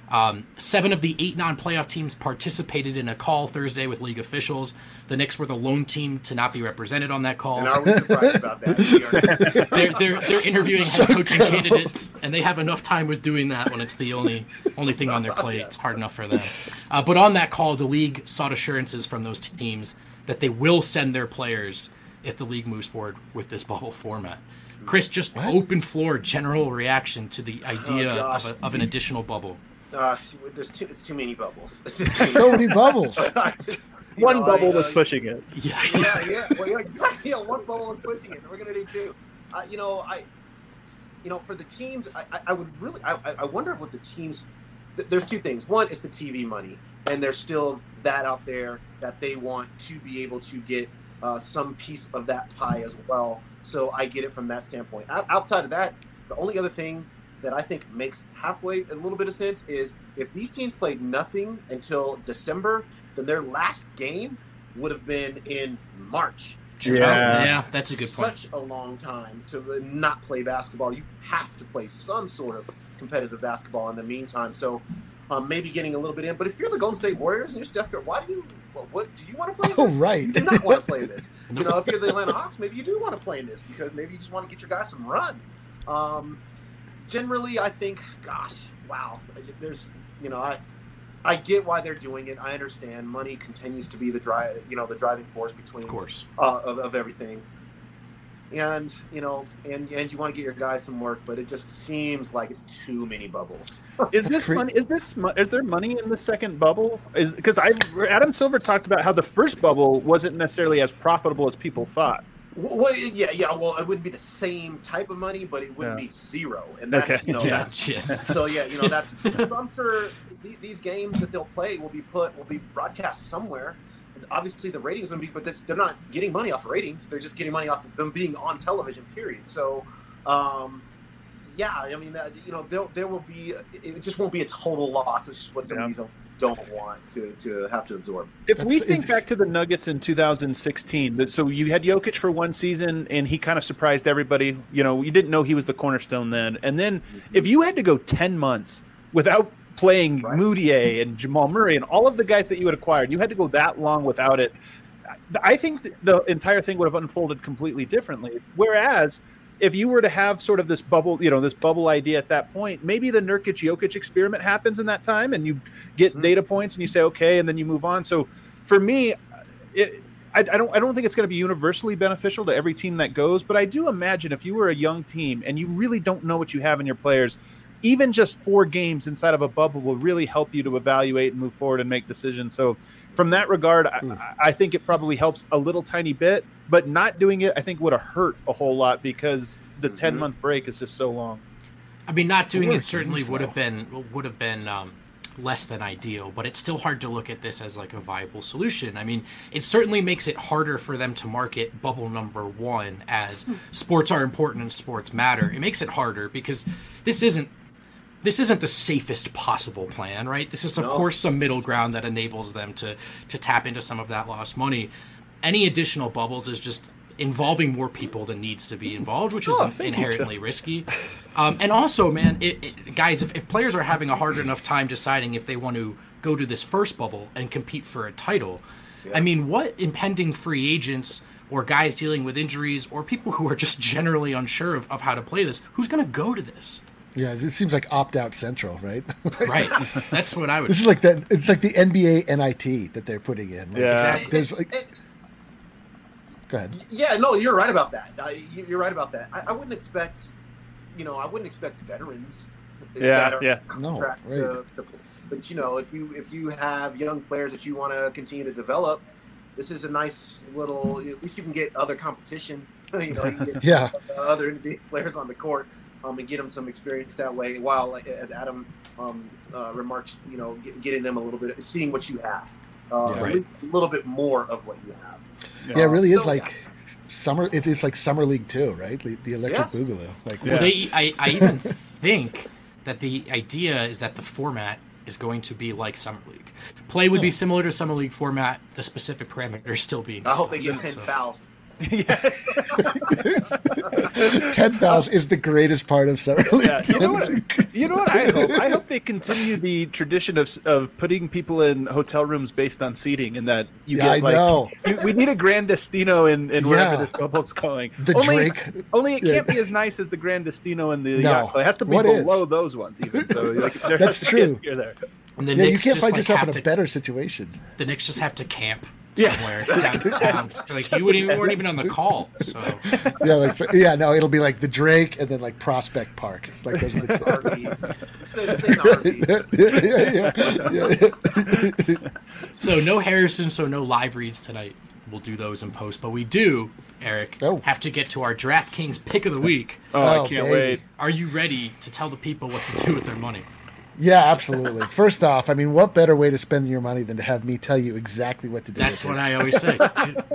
Um, seven of the eight non-playoff teams participated in a call Thursday with league officials. The Knicks were the lone team to not be represented on that call. And are we surprised about that? We are. They're, they're, they're interviewing head coaching candidates, and they have enough time with doing that when it's the only only thing on their plate. It's hard enough for them. Uh, but on that call, the league sought assurances from those teams that they will send their players if the league moves forward with this bubble format. Chris, just what? Open floor general reaction to the idea oh, of, a, of an additional bubble. Uh, there's too, it's too many bubbles. It's just too so many bubbles. just, one know, bubble I, was uh, pushing it. Yeah, yeah, yeah. Well, yeah, exactly. Yeah, one bubble was pushing it. We're gonna do two. Uh, you know, I, you know, for the teams, I, I, I would really, I, I wonder what the teams. Th- there's two things. One is the T V money, and there's still that out there that they want to be able to get uh, some piece of that pie as well. So I get it from that standpoint. O- outside of that, the only other thing that I think makes halfway a little bit of sense is if these teams played nothing until December, then their last game would have been in March. Yeah, yeah, that's a good point. Such a long time to not play basketball. You have to play some sort of competitive basketball in the meantime. So um, maybe getting a little bit in. But if you're the Golden State Warriors and you're Steph Curry, why do you? What, what do you want to play in Oh, this? right. You do not want to play in this. You know, if you're the Atlanta Hawks, maybe you do want to play in this because maybe you just want to get your guys some run. Um, generally, I think, gosh, wow. There's, you know, I. I get why they're doing it. I understand. Money continues to be the drive, you know, the driving force between, of course, uh, of, of everything. And you know, and and you want to get your guys some work, but it just seems like it's too many bubbles. Is this money? Is this is there money in the second bubble? Is because I Adam Silver talked about how the first bubble wasn't necessarily as profitable as people thought. Well, yeah, yeah. Well, it wouldn't be the same type of money, but it wouldn't Yeah. be zero. And that's, Okay. you know, Yeah, that's yes. so yeah, you know, that's. I'm sure the- these games that they'll play will be put will be broadcast somewhere. Obviously, the ratings will be, but that's, they're not getting money off of ratings. They're just getting money off of them being on television. Period. So, um, yeah, I mean, uh, you know, there there will be. It just won't be a total loss. It's just what some Yeah. of these don't want to to have to absorb. If we That's- think it's- back to the Nuggets in two thousand sixteen, that- so you had Jokic for one season, and he kind of surprised everybody. You know, you didn't know he was the cornerstone then. And then if you had to go ten months without playing Right. Moutier and Jamal Murray and all of the guys that you had acquired, you had to go that long without it. I think th- the entire thing would have unfolded completely differently. Whereas if you were to have sort of this bubble, you know, this bubble idea at that point, maybe the Nurkic Jokic experiment happens in that time and you get Mm-hmm. data points and you say, okay, and then you move on. So for me, it, I, I don't I don't think it's going to be universally beneficial to every team that goes, but I do imagine if you were a young team and you really don't know what you have in your players, even just four games inside of a bubble will really help you to evaluate and move forward and make decisions. So from that regard, I, I think it probably helps a little tiny bit, but not doing it, I think would have hurt a whole lot because the Mhm. ten month break is just so long. I mean, not doing Four it certainly games, would though. have been would have been um, less than ideal, but it's still hard to look at this as like a viable solution. I mean, it certainly makes it harder for them to market bubble number one as sports are important and sports matter. It makes it harder because this isn't this isn't the safest possible plan, right? This is of No. course some middle ground that enables them to to tap into some of that lost money. Any additional bubbles is just involving more people than needs to be involved, which is Oh, thank you, inherently risky. Um, and also, man, it, it, guys, if, if players are having a hard enough time deciding if they want to go to this first bubble and compete for a title, I mean, what impending free agents or guys dealing with injuries or people who are just generally unsure of, of how to play this, who's going to go to this? Yeah, it seems like opt-out central, right? Right. That's what I would. This is like that. It's like the N B A N I T that they're putting in. Like, Yeah. Exactly. There's like. And- Go ahead. Yeah, no, you're right about that. I, you- you're right about that. I, I wouldn't expect, you know, I wouldn't expect veterans. Yeah, that are yeah. No, contract right. to, to, but you know, if you if you have young players that you want to continue to develop, this is a nice little. At least you can get other competition. You know, you can get Yeah. other N B A players on the court, um, and get them some experience that way. While, like, as Adam um, uh, remarks, you know, get, getting them a little bit, seeing what you have, uh, Yeah. at least a little bit more of what you have. Yeah, it really is So, like summer. It is like summer league too, right? The, the electric Yes. boogaloo. Like, Yeah. Well, they, I, I even think that the idea is that the format is going to be like Summer League. Play would be similar to Summer League format, the specific parameters still being I hope they discussed, get ten so- fouls. ten fouls is the greatest part of summer league. Yeah, you know what? You know what I hope? I hope they continue the tradition of of putting people in hotel rooms based on seating, and that you Yeah, get I like know. you, we need a Grand Destino in, in wherever Yeah. the bubble's going. The only, Drake. Only it Yeah. can't be as nice as the Grand Destino and the No. Yacht Club. It has to be What is? below those ones, even. So like, there That's has to be a true. tier there. And the Yeah, you Knicks can't just find like yourself have in a to, better situation. the Knicks just have to camp Yeah. somewhere downtown. Like you wouldn't even, weren't even on the call. So Yeah, like yeah, no, it'll be like the Drake and then like Prospect Park. Like those are the two. Arby's. Just this thing, Arby's. yeah, yeah, yeah, yeah. so no Harrison, so no live reads tonight. We'll do those in post, but we do, Eric, Oh. have to get to our DraftKings pick of the week. Oh, Oh, I can't baby. wait. Are you ready to tell the people what to do with their money? Yeah, absolutely. First off, I mean, what better way to spend your money than to have me tell you exactly what to do? That's with what it? I always say.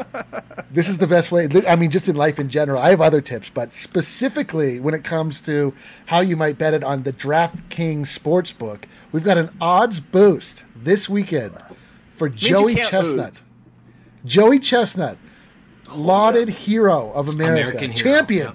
This is the best way. I mean, just in life in general. I have other tips, but specifically when it comes to how you might bet it on the DraftKings Sportsbook, we've got an odds boost this weekend for you Joey can't Chestnut. lose. Joey Chestnut, lauded hero of America, American hero, champion,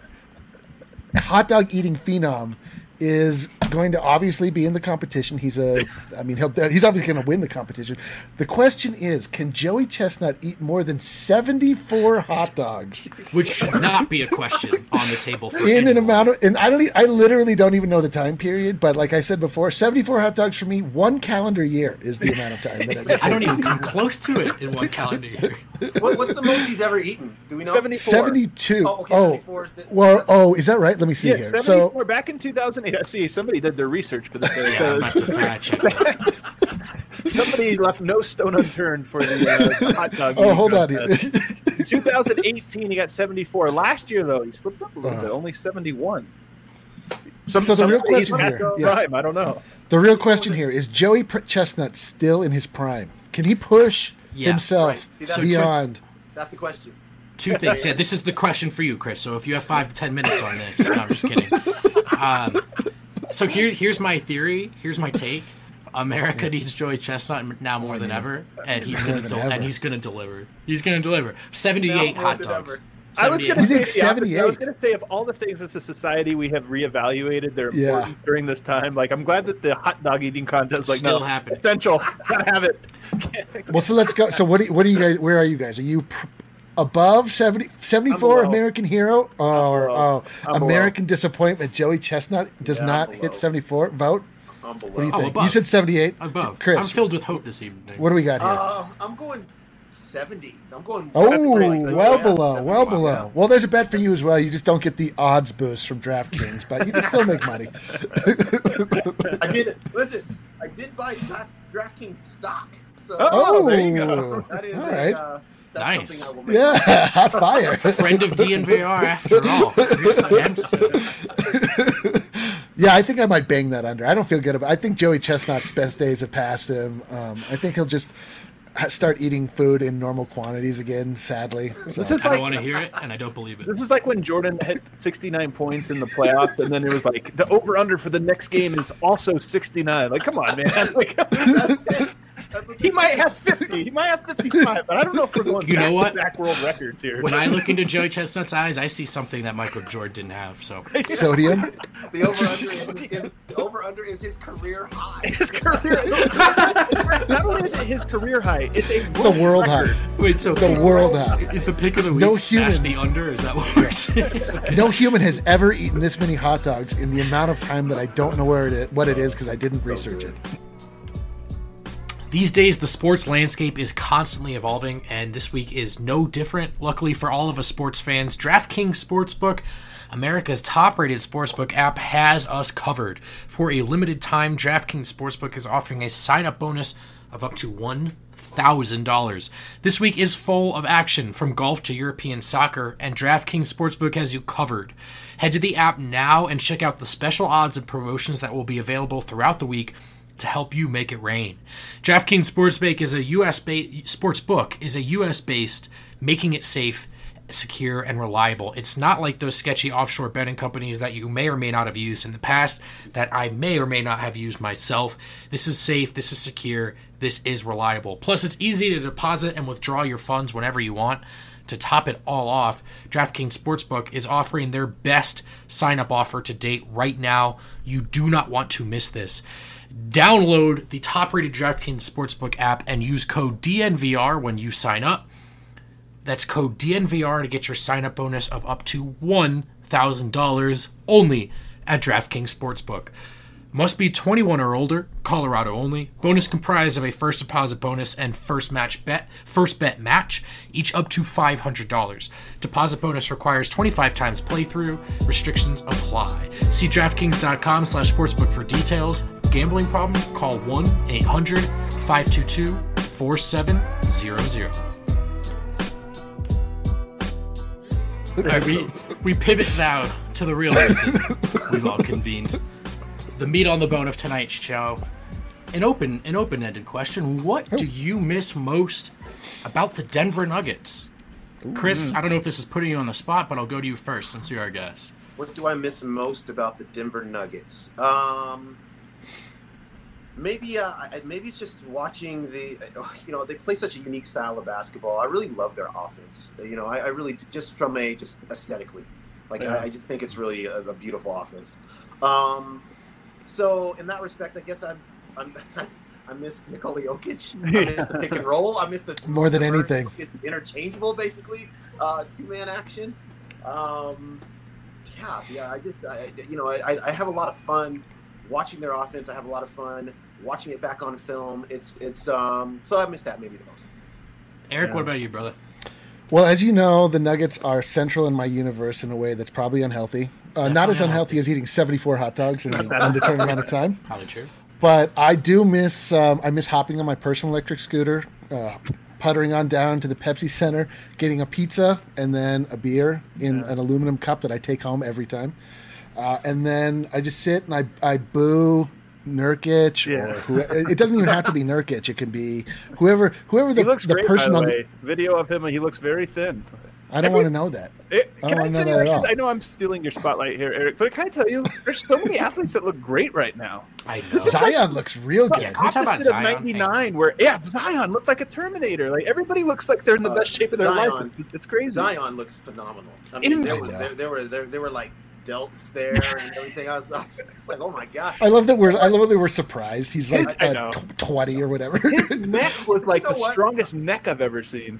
hot dog eating phenom, is going to obviously be in the competition. He's a, I mean, he'll, he's obviously going to win the competition. The question is, can Joey Chestnut eat more than seventy-four hot dogs Which should not be a question on the table for in an anyone. amount of? And I don't, e- I literally don't even know the time period. But like I said before, seventy-four hot dogs for me, one calendar year is the amount of time that I get. I don't even come close to it in one calendar year. What, what's the most he's ever eaten? Do we know? seventy-four. seventy-two. Oh, okay, Oh, seventy-four is the- well, oh, is that right? Let me see Yeah, here. seventy-four. So Back in two thousand eight, I see somebody did their research for this. Yeah, I'm about to fact check that. Somebody left no stone unturned for the uh, hot dog. oh, eating hold on here. contest. In two thousand eighteen, he got seventy-four. Last year, though, he slipped up a little Uh. bit, only seventy-one. So the real question he's here- past yeah. prime, I don't know. The real question here is: Joey Pr- Chestnut still in his prime? Can he push Yeah, himself right. See, that's- beyond? That's the question. Two things. Yeah, this is the question for you, Chris. So if you have five to ten minutes on this, no, I'm just kidding. Um, so here, here's my theory. Here's my take. America needs Joey Chestnut now more than ever, and he's gonna than del- ever. and he's gonna deliver. He's gonna deliver. Seventy-eight Now more hot than dogs. ever. I was going to You say think the opposite. I was seventy-eight? going to say of all the things as a society we have reevaluated their Yeah. importance during this time. Like I'm glad that the hot dog eating contest like Still no, happening. essential. Gotta have it. Well, so let's go. So what? Do, what are you guys? Where are you guys? Are you pr- above seventy, seventy-four below. American Hero, or below. oh, I'm below. American disappointment? Joey Chestnut does Yeah, I'm not below. hit seventy-four. Vote. I'm below. What do you Oh, think? above. You said seventy-eight. Above. Chris, I'm filled with hope this evening. what do we got here? Uh, I'm going seventy. I'm going. Oh, pretty good. well Yeah, below, that's well pretty below. yeah. Well, there's a bet for you as well. You just don't get the odds boost from DraftKings, but you can still make money. I did. Listen, I did buy Dra- DraftKings stock. So Oh, there you go. that is all a, right. uh, that's Nice. something I will make. Yeah, hot fire. Friend of D N V R after all. Chris Dempsey. Yeah, I think I might bang that under. I don't feel good about. I think Joey Chestnut's best days have passed him. Um, I think he'll just ha- start eating food in normal quantities again. Sadly, This So- is I don't like want to hear it, and I don't believe it. this is like when Jordan hit sixty-nine points in the playoffs, and then it was like the over under for the next game is also sixty-nine. Like, come on, man. Like, That's what he this might is. have fifty. He might have fifty-five, but I don't know if we're going You back know what? to back world records here. When I look into Joey Chestnut's eyes, I see something that Michael Jordan didn't have. So sodium. The over under is, is the over under is his career high. his career, not only is it his career high, it's a The world high. record. wait, so The world high. is the pick of the week No smash human. the under? Is that what we're saying? No human has ever eaten this many hot dogs in the amount of time that I don't know where it is, what it is because I didn't research it. These days, the sports landscape is constantly evolving, and this week is no different. Luckily for all of us sports fans, DraftKings Sportsbook, America's top-rated sportsbook app, has us covered. For a limited time, DraftKings Sportsbook is offering a sign-up bonus of up to one thousand dollars. This week is full of action, from golf to European soccer, and DraftKings Sportsbook has you covered. Head to the app now and check out the special odds and promotions that will be available throughout the week to help you make it rain. DraftKings Sportsbook is a U S based sportsbook is a U S based, making it safe, secure, and reliable. It's not like those sketchy offshore betting companies that you may or may not have used in the past, that I may or may not have used myself. This is safe, this is secure, this is reliable. Plus, it's easy to deposit and withdraw your funds whenever you want. To top it all off, DraftKings Sportsbook is offering their best sign-up offer to date right now. You do not want to miss this. Download the top-rated DraftKings Sportsbook app and use code D N V R when you sign up. That's code D N V R to get your sign-up bonus of up to one thousand dollars only at DraftKings Sportsbook. Must be twenty-one or older, Colorado only. Bonus comprised of a first deposit bonus and first match bet, first bet match, each up to five hundred dollars. Deposit bonus requires twenty-five times playthrough. Restrictions apply. See DraftKings.com slash sportsbook for details. Gambling problem? Call one eight hundred five two two four seven zero zero. All right, we, we pivot now to the real reason we've all convened. The meat on the bone of tonight's show. An open, an open-ended question. What do you miss most about the Denver Nuggets? Chris, I don't know if this is putting you on the spot, but I'll go to you first since you're our guest. What do I miss most about the Denver Nuggets? Um, maybe, uh, maybe it's just watching the. You know, they play such a unique style of basketball. I really love their offense. You know, I, I really just from a just aesthetically, like yeah. I, I just think it's really a, a beautiful offense. Um, so in that respect, I guess I'm. I'm I miss Nikola Jokic. I miss the pick and roll. I miss the more than anything interchangeable, basically uh, two man action. Um, yeah, yeah. I just, I, you know, I, I have a lot of fun watching their offense. I have a lot of fun watching it back on film. It's, it's. Um, so I miss that maybe the most. Eric, yeah. What about you, brother? Well, as you know, the Nuggets are central in my universe in a way that's probably unhealthy. Uh, not as unhealthy as eating seventy-four hot dogs in an undetermined amount of time. Probably true. But I do miss um, I miss hopping on my personal electric scooter, uh, puttering on down to the Pepsi Center, getting a pizza and then a beer in yeah. an aluminum cup that I take home every time. Uh, and then I just sit and I, I boo Nurkic. Yeah. Or who, it doesn't even have to be Nurkic. It can be whoever whoever the, he looks the great, person by the on way. The video of him, he looks very thin. I don't want to know that. It, I can don't I know tell that you, at all. actually, I know I'm stealing your spotlight here, Eric, but can I tell you, there's so many athletes that look great right now. I know. This is Zion like, looks real good. Yeah, can we talk about opposite Zion? of ninety-nine, where yeah, Zion looked like a Terminator. Like everybody looks like they're in the Uh, best shape of their Zion- life. It's, it's crazy. Zion looks phenomenal. I mean, In- there, I were, know. there, there were there, there were like delts there and everything. I was, I was like, oh my god. I love that we're I love that we're surprised. He's like I uh, know. t- twenty or whatever. His neck was like You know the what? strongest neck I've ever seen.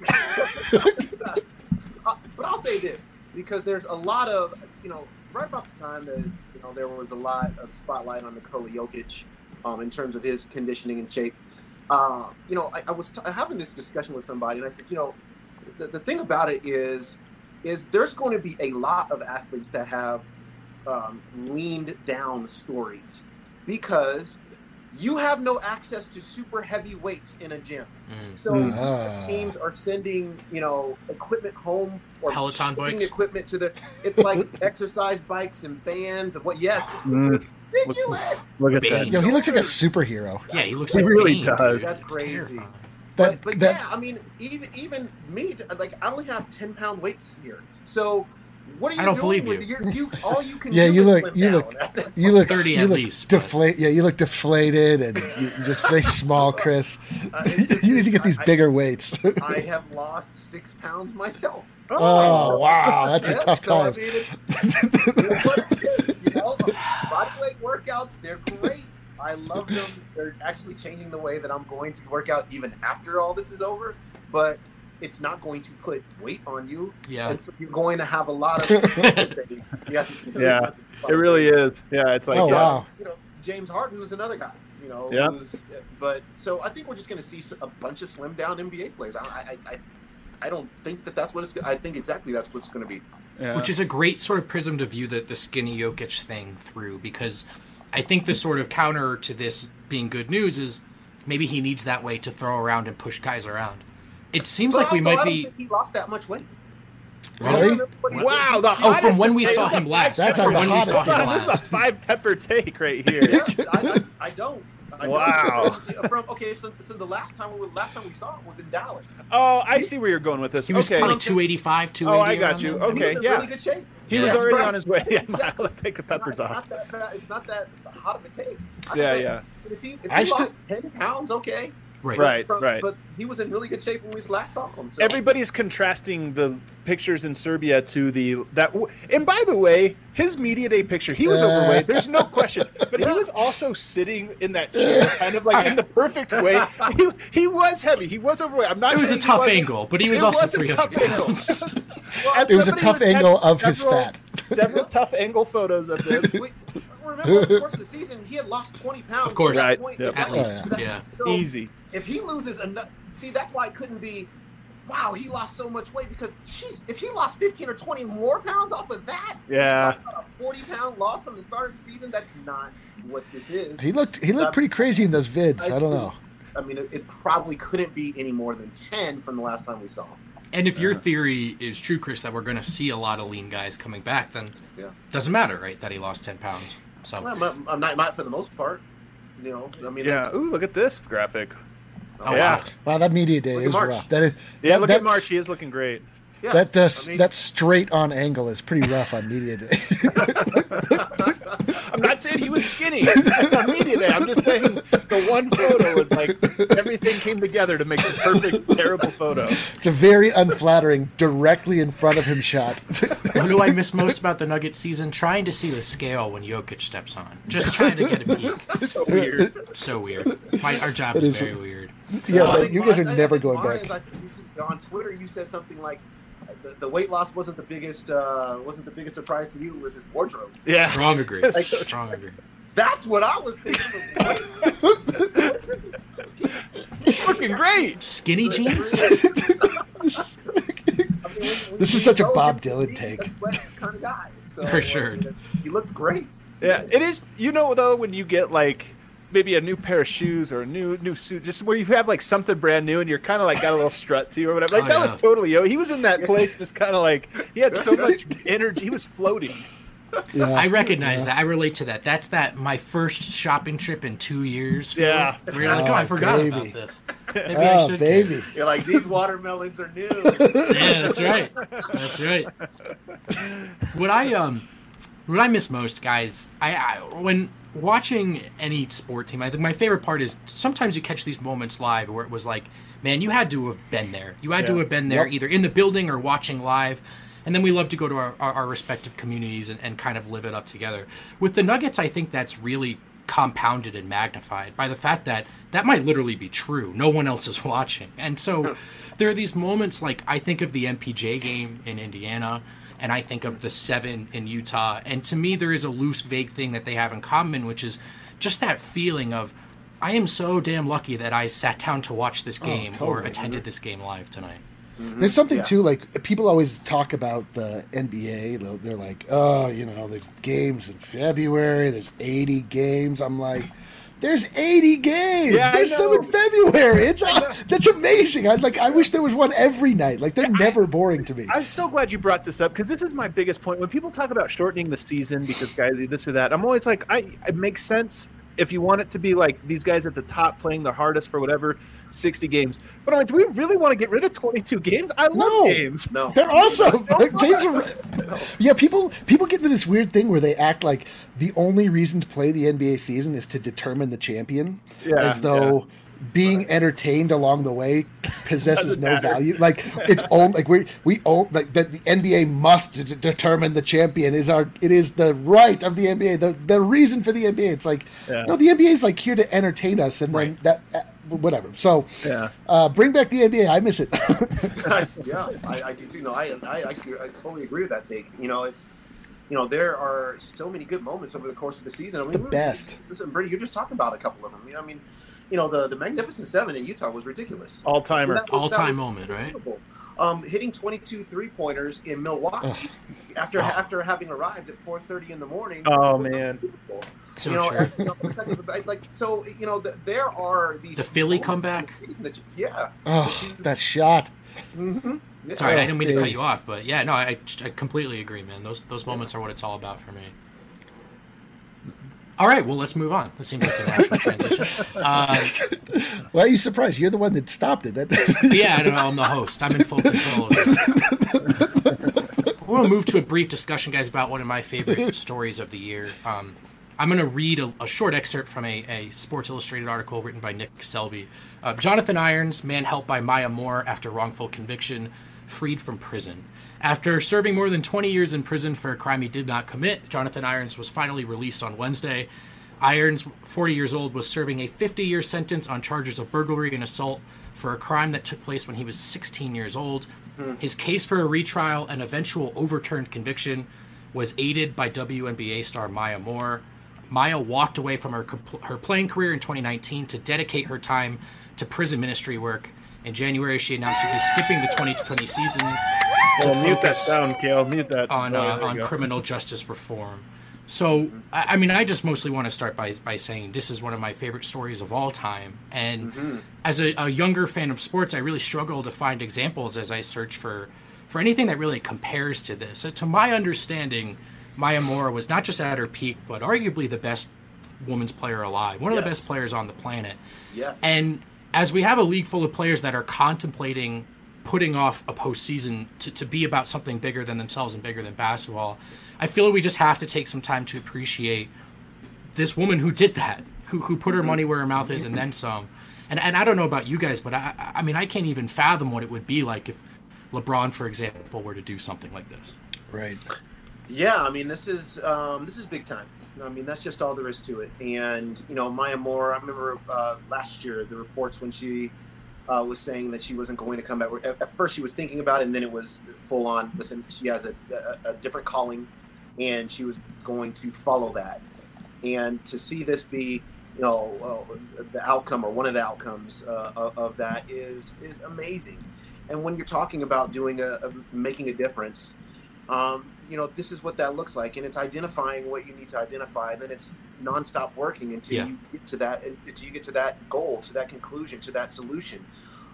Uh, but I'll say this, because there's a lot of, you know, right about the time that, you know, there was a lot of spotlight on Nikola Jokic um, in terms of his conditioning and shape. Uh, you know, I, I was t- having this discussion with somebody, and I said, you know, the, the thing about it is, is there's going to be a lot of athletes that have um, leaned down stories because you have no access to super heavy weights in a gym. Mm. So Ah. teams are sending, you know, equipment home or Peloton shipping bikes. equipment to the. It's like exercise bikes and bands and what? Yes, it's Mm. ridiculous. Look at Bane. that. Yo, he looks like a superhero. Yeah, he looks He like really Bane, does. dude. That's It's crazy. terrifying. That, But, but that, yeah, I mean, even even me, like I only have ten pound weights here. So what are you I don't doing believe with you. your, you? All you can Yeah, do you is look- slim you down. look- That's- You look thirty you at look least, but- deflate. Yeah, you look deflated and you, you're just very small, Chris. Uh, it's just- You need to get these I- bigger weights. I have lost six pounds myself. Oh wow, that's a Yes, tough so, I time. mean, it's, it's what it is, you know? Bodyweight workouts, they're great. I love them. They're actually changing the way that I'm going to work out even after all this is over. But it's not going to put weight on you. Yeah. And so you're going to have a lot of... yes. Yeah, It really is. Yeah, it's like Oh, yeah. wow. You know, James Harden is another guy. You know, Yeah. who's, but so I think we're just going to see a bunch of slim down N B A players. I, I, I, I don't think that that's what it's. I think exactly that's what's going to be. Yeah. Which is a great sort of prism to view the, the skinny Jokic thing through, because I think the sort of counter to this being good news is maybe he needs that weight to throw around and push guys around. It seems But like we also, might I don't be... think he lost that much weight. Really? Wow, the Oh, from hottest when we take- saw him last. That's from the when we hottest saw take. him This is a last. five pepper take right here. Yes, I, I, I don't. I Wow. Don't. From okay, so, so the last time we last time we saw him was in Dallas. Oh, I see where you're going with this. He was okay. probably two eighty-five, two eighty. Oh, I got around you. there. And Okay, he's in yeah. really good shape. He Yeah. was already Right. on his way. Yeah, Exactly. I'll take the It's not, peppers it's off. not that bad. It's not that hot of a take. I Yeah, feel yeah. like If he, if I he still- lost ten pounds, okay. Right. Right, But, right. But he was in really good shape when we last saw him. So. Everybody's contrasting the pictures in Serbia to the that. And by the way, his media day picture, he was Uh. overweight. There's no question, but he was also sitting in that chair, kind of like in the perfect way. He, he was heavy. He was overweight. I'm not. It was a saying he tough wasn't- angle, but he was it also was a three tough hundred angle. pounds. As It was a somebody tough who's had angle of his several- fat. Several tough angle photos of him. We, remember, over the course of the season, he had lost twenty pounds. Of course. to that Right. point. Yep. At Right. least, So that- yeah. So Easy. if he loses enough, see, that's why it couldn't be. Wow, he lost so much weight because, jeez, if he lost fifteen or twenty more pounds off of that, Yeah. talking about a forty pound loss from the start of the season. That's not what this is. He looked he looked pretty crazy in those vids. I don't know. I mean, it, it probably couldn't be any more than ten from the last time we saw him. And if your theory is true, Chris, that we're going to see a lot of lean guys coming back, then Yeah. doesn't matter, right? That he lost ten pounds. So Well, I'm, I'm not, not for the most part. You know, I mean, Yeah. that's- Ooh, look at this graphic. Oh, yeah. wow. Wow, that media day Look at is March. rough. That is Yeah. that, Look that, at March. He is looking great. yeah. That uh, I mean, that straight on angle is pretty rough on media day. I'm not saying he was skinny on media day. I'm just saying the one photo was like everything came together to make the perfect terrible photo. It's a very unflattering, directly in front of him shot. What do I miss most about the Nuggets season? Trying to see the scale when Jokic steps on. Just trying to get a peek. So weird. So weird. My, our job It is is- very weird. Yeah, I but think you guys are mine- I never think going mine back. is, I think this is- on Twitter, you said something like the, the weight loss wasn't the biggest uh, wasn't the biggest surprise to you. It was his wardrobe. Yeah. Strong agree. Like- Strong agree. That's what I was thinking. Looking great. Skinny jeans? This is such a Bob Dylan take. Kind of guy. So, For I sure. mean, he looked great. Yeah, it is. You know, though, when you get like maybe a new pair of shoes or a new new suit, just where you have like something brand new and you're kind of like got a little strut to you or whatever. Like Oh, that yeah. was totally yo. He was in that place, just kind of like he had so much energy. He was floating. Yeah. I recognize that. I relate to that. That's that my first shopping trip in two years. feeling. Yeah. Where you're like, oh, I Oh, forgot baby. about this. Maybe I Oh, should. baby. You're like, these watermelons are new. Yeah, that's right. That's right. What I um, what I miss most, guys, I, I when watching any sport team, I think my favorite part is sometimes you catch these moments live where it was like, man, you had to have been there. You had to Yeah. have been there, Yep. either in the building or watching live. And then we love to go to our, our, our respective communities and, and kind of live it up together. With the Nuggets, I think that's really compounded and magnified by the fact that that might literally be true. No one else is watching. And so there are these moments like I think of the M P J game in Indiana and I think of the seven in Utah. And to me, there is a loose, vague thing that they have in common, which is just that feeling of, I am so damn lucky that I sat down to watch this game or totally. attended this game live tonight. There's something Yeah. too, like people always talk about the N B A. They'll- They're like, oh, you know, there's games in February. There's eighty games. I'm like, there's eighty games. Yeah, I there's some know. in February. It's that's amazing. I like. I wish there was one every night. Like they're never boring to me. I'm so glad you brought this up because this is my biggest point. When people talk about shortening the season because guys do this or that, I'm always like, I it makes sense if you want it to be like these guys at the top playing the hardest for whatever sixty games. But I'm like, do we really want to get rid of twenty-two games? I love No. games. No. They're awesome. Like, games are, yeah, people people get into this weird thing where they act like the only reason to play the N B A season is to determine the champion, Yeah, as though being entertained along the way possesses Doesn't no matter. value. Like it's own like we we own like that the N B A must d- determine the champion is our it is the right of the N B A the the reason for the N B A. It's like Yeah. no, the N B A is like here to entertain us, and then that uh, whatever. So Yeah. uh, bring back the N B A. I miss it. yeah, I, I do too. No, I, I, I, I totally agree with that take. You know, it's, you know, there are so many good moments over the course of the season. I mean, The we- best. Listen, Brady, you're just talking about a couple of them. I mean, you know, the, the Magnificent Seven in Utah was ridiculous. All timer. That was- All-time that was moment, right? unbelievable. Um, hitting twenty-two three-pointers in Milwaukee after after having arrived at four thirty in the morning. Oh, was man. unbelievable. So you know, true. and, you know, the second, like so, you know, the, there are these The Philly moments comeback? in the season that you, yeah. Oh, that shot. Mm-hmm. yeah. Sorry, I Oh, didn't mean to cut baby. you off, but yeah, no, I, I completely agree, man. Those those moments are what it's all about for me. All right, well, let's move on. That seems like a natural transition. Uh, Why are you surprised? You're the one that stopped it. That yeah, I don't know. I'm the host. I'm in full control of this. We're going to move to a brief discussion, guys, about one of my favorite stories of the year. Um, I'm going to read a, a short excerpt from a, a Sports Illustrated article written by Nick Selby. Uh, Jonathan Irons, man helped by Maya Moore after wrongful conviction, freed from prison. After serving more than twenty years in prison for a crime he did not commit, Jonathan Irons was finally released on Wednesday. Irons, forty years old, was serving a fifty-year sentence on charges of burglary and assault for a crime that took place when he was sixteen years old. Mm. His case for a retrial and eventual overturned conviction was aided by W N B A star Maya Moore. Maya walked away from her her playing career in twenty nineteen to dedicate her time to prison ministry work. In January, she announced she'd be skipping the twenty twenty season to well, mute that focus sound, Kale. Mute that. on Oh, uh, there you on go. criminal justice reform. So, I, I mean, I just mostly want to start by by saying this is one of my favorite stories of all time. And Mm-hmm. as a, a younger fan of sports, I really struggle to find examples as I search for for anything that really compares to this. Uh, To my understanding, Maya Moore was not just at her peak, but arguably the best women's player alive, one of the Yes. best players on the planet. Yes. And as we have a league full of players that are contemplating putting off a postseason to, to be about something bigger than themselves and bigger than basketball, I feel we just have to take some time to appreciate this woman who did that, who who put her money where her mouth is and then some. And and I don't know about you guys, but I I mean I can't even fathom what it would be like if LeBron, for example, were to do something like this. Right. Yeah, I mean, this is um, this is big time. I mean, that's just all there is to it. And you know, Maya Moore. I remember uh, last year the reports when she uh, was saying that she wasn't going to come back. At, at first, she was thinking about it, and then it was full on. Listen, she has a, a, a different calling, and she was going to follow that. And to see this be, you know, uh, the outcome or one of the outcomes uh, of, of that is is amazing. And when you're talking about doing a, a making a difference. Um, you know, this is what that looks like, and it's identifying what you need to identify. And then it's nonstop working until Yeah. you get to that, until you get to that goal, to that conclusion, to that solution.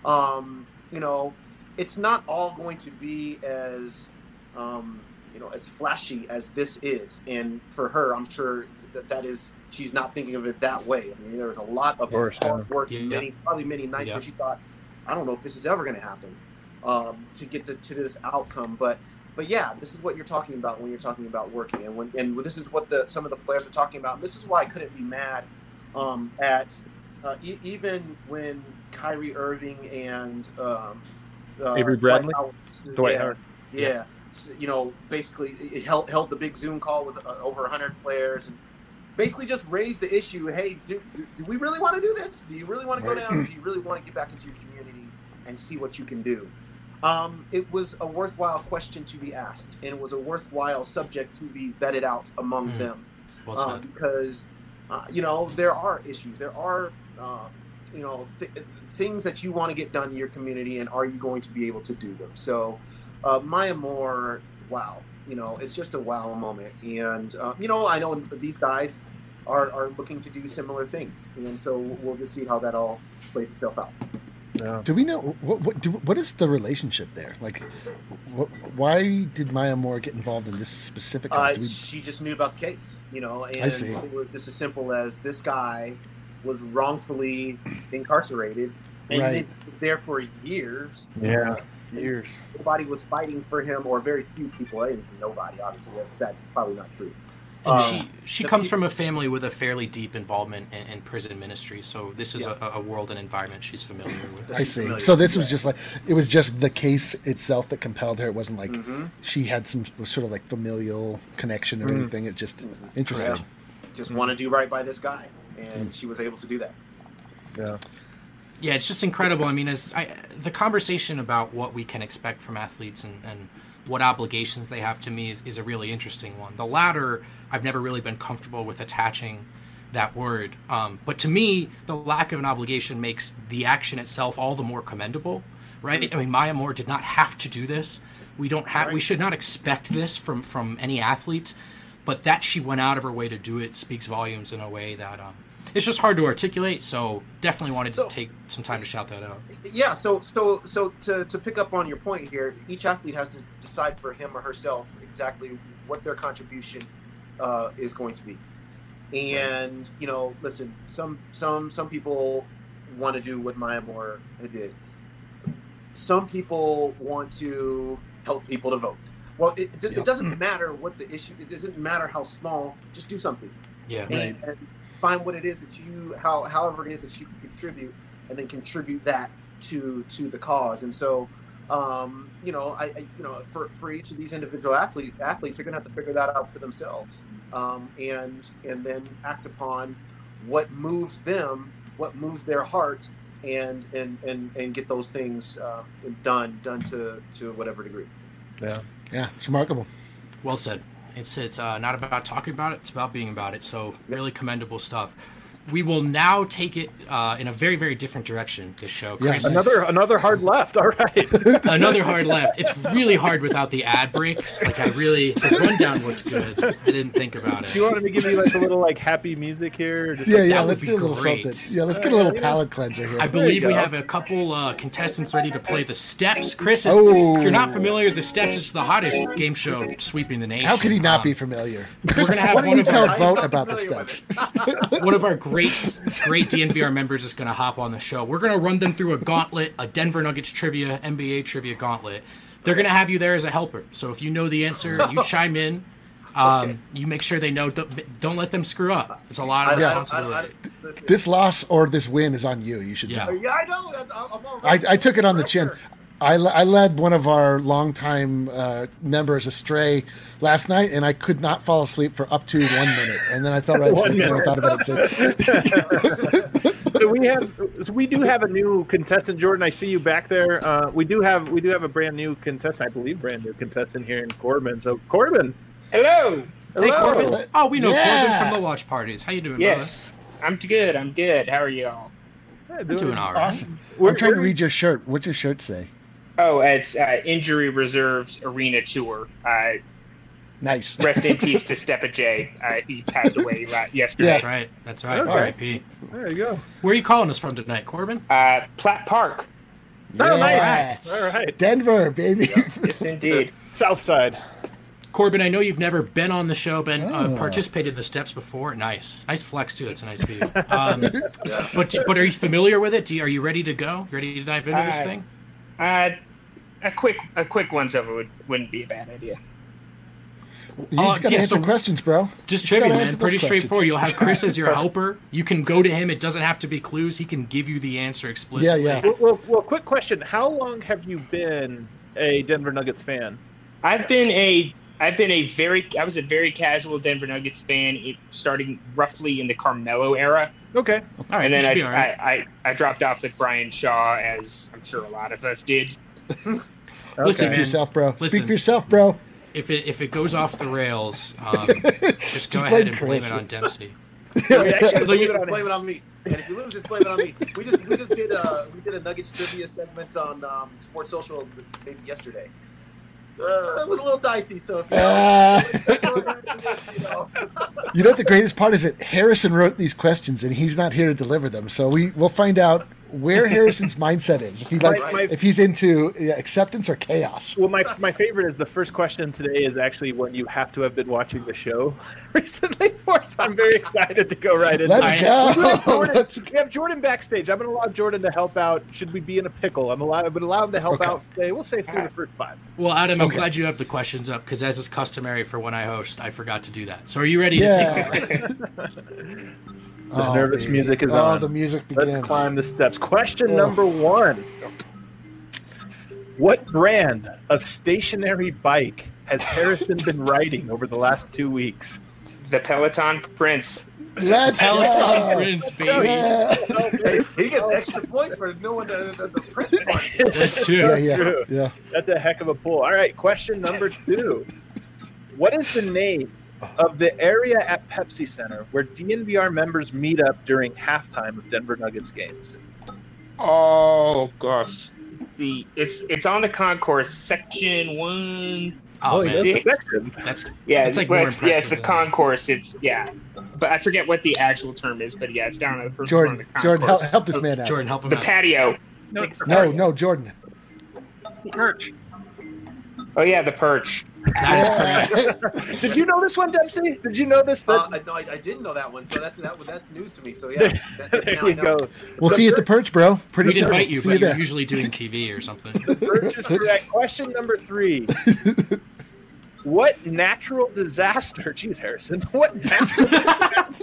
Um, you know, it's not all going to be as, um, you know, as flashy as this is. And for her, I'm sure that that is, she's not thinking of it that way. I mean, there was a lot of course, hard yeah. work, Yeah. many, probably many nights Yeah. where she thought, I don't know if this is ever going to happen, um, to get the, to this outcome. But But yeah, this is what you're talking about when you're talking about working, and when and this is what the some of the players are talking about. And this is why I couldn't be mad um, at uh, e- even when Kyrie Irving and um, uh, Avery Bradley? Dwight Howard, Dwight yeah, Howard. yeah, s- you know, basically it held held the big Zoom call with uh, over one hundred players and basically just raised the issue. Hey, do, do, do we really want to do this? Do you really want to go Right. down? Do you really want to get back into your community and see what you can do? Um, it was a worthwhile question to be asked, and it was a worthwhile subject to be vetted out among Mm. them. Well Uh, said. because, uh, you know, there are issues. There are, uh, you know, th- things that you want to get done in your community, and are you going to be able to do them? So, uh, Maya Moore, wow, you know, it's just a wow moment. And, uh, you know, I know these guys are, are looking to do similar things. And so we'll just see how that all plays itself out. Yeah. Do we know what what, do, what is the relationship there? Like, what, why did Maya Moore get involved in this specific? Uh, Do we- she just knew about the case, you know, and I see. it was just as simple as this guy was wrongfully incarcerated, and Right. he was there for years. Yeah. Uh, Years. nobody was fighting for him, or very few people. I didn't say nobody. Obviously, that's, that's probably not true. And Um, she she the comes peop- from a family with a fairly deep involvement in, in prison ministry, so this is Yeah. a, a world and environment she's familiar with. I she's see. familiar So with this it, was yeah. just like it was just the case itself that compelled her. It wasn't like Mhm. she had some sort of like familial connection or Mm. anything. It just interesting. Yeah. Just want to do right by this guy, and she was able to do that. Yeah. Yeah, it's just incredible. I mean, as I, the conversation about what we can expect from athletes and, and what obligations they have to me is, is a really interesting one. The latter, I've never really been comfortable with attaching that word. Um, but to me, the lack of an obligation makes the action itself all the more commendable, right? I mean, Maya Moore did not have to do this. We don't have. We Right. should not expect this from from any athlete. But that she went out of her way to do it speaks volumes in a way that um, it's just hard to articulate. So definitely wanted to So- take some time to shout that out. Yeah, so so so to, to pick up on your point here, each athlete has to decide for him or herself exactly what their contribution uh, is going to be. And you know, listen, some some some people want to do what Maya Moore did. Some people want to help people to vote. Well, it, it, Yep. it doesn't matter what the issue. It doesn't matter how small. Just do something. Yeah. and, Right. and find what it is that you, how however it is that you can contribute, and then contribute that to to the cause. And so, um, you know, I, I you know for, for each of these individual athlete athletes, they're going to have to figure that out for themselves, um, and and then act upon what moves them, what moves their heart, and and and, and get those things uh, done done to to whatever degree. Yeah. Yeah, it's remarkable. Well said. It's it's uh, not about talking about it. It's about being about it. So really commendable stuff. We will now take it uh, in a very, very different direction, this show. Chris, Yes. Another another hard left. All right. another hard left. It's really hard without the ad breaks. Like, I really, the rundown looked good. I didn't think about Do you it. want me to give you like a little like happy music here? Or just Yeah, like, yeah. that would Let's be do a little great. something. Yeah, let's get a little palate cleanser here. I you believe we go. have a couple uh, contestants ready to play the steps. Chris, if, Oh. if you're not familiar, the steps, it's the hottest game show sweeping the nation. How could he not Um, be familiar? We're going to have Why don't one you of tell our, Vote I'm about the familiar with steps? one of our great, great D N V R members is going to hop on the show. We're going to run them through a gauntlet, a Denver Nuggets trivia, N B A trivia gauntlet. They're going to have you there as a helper. So if you know the answer, you chime in. Um, Okay. You make sure they know. Don't, don't let them screw up. It's a lot I, of I, I, I, responsibility. listen, This loss or this win is on you. You should Yeah. know. yeah, I know. That's, I'm, I'm all I, right. I took it on the chin. Pressure. I, le- I led one of our longtime uh, members astray last night, and I could not fall asleep for up to one minute. And then I fell right One asleep and I minute. thought about it. So, so we have so we do have a new contestant, Jordan. I see you back there. Uh, we do have we do have a brand new contestant, I believe, brand new contestant here in Corbin. So Corbin, Hello. Hey, hello. Corbin. Oh, we know Yeah. Corbin from the watch parties. How you doing, Yes, I'm good. I'm good. How are y'all? Yeah, brother? Doing all right. awesome. We're- I'm trying to we're- read your shirt. What's your shirt say? Oh, it's uh, Injury Reserves Arena Tour. Uh, Nice. rest in peace to Steppa J. Uh, he passed away la- yesterday. That's right. That's right. Okay. R I P. There you go. Where are you calling us from tonight, Corbin? Uh, Platt Park. Oh, nice. Yes. All right. Denver, baby. Yes, indeed. South Side. Corbin, I know you've never been on the show, been uh, Oh. participated in the steps before. Nice, nice flex too. That's a nice view. Um, But but are you familiar with it? Do you, are you ready to go? Ready to dive into this Uh, thing? Uh, a quick a quick once over would, wouldn't be a bad idea. You Uh, just gotta yeah, answer so- questions, bro. Just Just trivia, gotta man. answer those Pretty questions. straightforward. You'll have Chris as your helper. You can go to him. It doesn't have to be clues. He can give you the answer explicitly. Yeah, Well, well, well, quick question. How long have you been a Denver Nuggets fan? I've been a I've been a very I was a very casual Denver Nuggets fan, it, starting roughly in the Carmelo era, Okay. All right, and you then should I, be all right. I, I I dropped off with Brian Shaw, as I'm sure a lot of us did. Listen, Speak man. for yourself, bro. Listen. Speak for yourself, bro. If it if it goes off the rails, um, just go Just ahead blame and blame Chris. it on Dempsey. Okay, actually, Look, leave it Just on blame it on me. And if you lose, just blame it on me. We just we just did a we did a Nuggets trivia segment on um, Sports Social maybe yesterday. Uh, it was a little dicey, so if you Uh, you know, you know what the greatest part is that Harrison wrote these questions and he's not here to deliver them. So we we'll find out where Harrison's mindset is. If he likes, Right. if he's into yeah, acceptance or chaos. Well, my my favorite is the first question today is actually one you have to have been watching the show recently for. So I'm very excited to go right into Let's it. Alright. We have go. Jordan, Let's- we have Jordan backstage. I'm going to allow Jordan to help out. Should we be in a pickle? I'm allowed. I would allow him to help Okay. out. Today. We'll say through the first five. Well, Adam, I'm Okay. glad you have the questions up because, as is customary for when I host, I forgot to do that. So, are you ready to Yeah. take it? The nervous music is oh, on. the music begins. Let's climb the steps. Question Oh. number one: what brand of stationary bike has Harrison been riding over the last two weeks? The Peloton Prince. Let's Peloton go. Prince, baby. Yeah. hey, he gets extra points for knowing the the, the print part. That's true. Yeah, yeah, True. yeah. That's a heck of a pull. All right, question number two. What is the name of the area at Pepsi Center where D N V R members meet up during halftime of Denver Nuggets games? Oh gosh, the it's it's on the concourse section one. Oh, Oh, man. yeah. Six. Section. That's Yeah, That's, like, well, more it's, yeah, it's impressive the than- concourse. It's yeah, but I forget what the actual term is. But yeah, it's down on the first Jordan, floor of the Jordan, help, concourse. help this man out. Jordan, help him The out. patio. No, It's the No, patio. no, Jordan. Perch. Oh yeah, the perch. That is correct. Did you know this one, Dempsey? Did you know this? Uh, That, I, no, I, I didn't know that one, so that's that was that's news to me. So yeah, that, that, there now I you know. go. We'll The see you at the perch, bro. Pretty We'd soon. invite you, see but you you're there. usually doing T V or something. Birch is correct. Question number three. What natural disaster, geez, Harrison, what natural,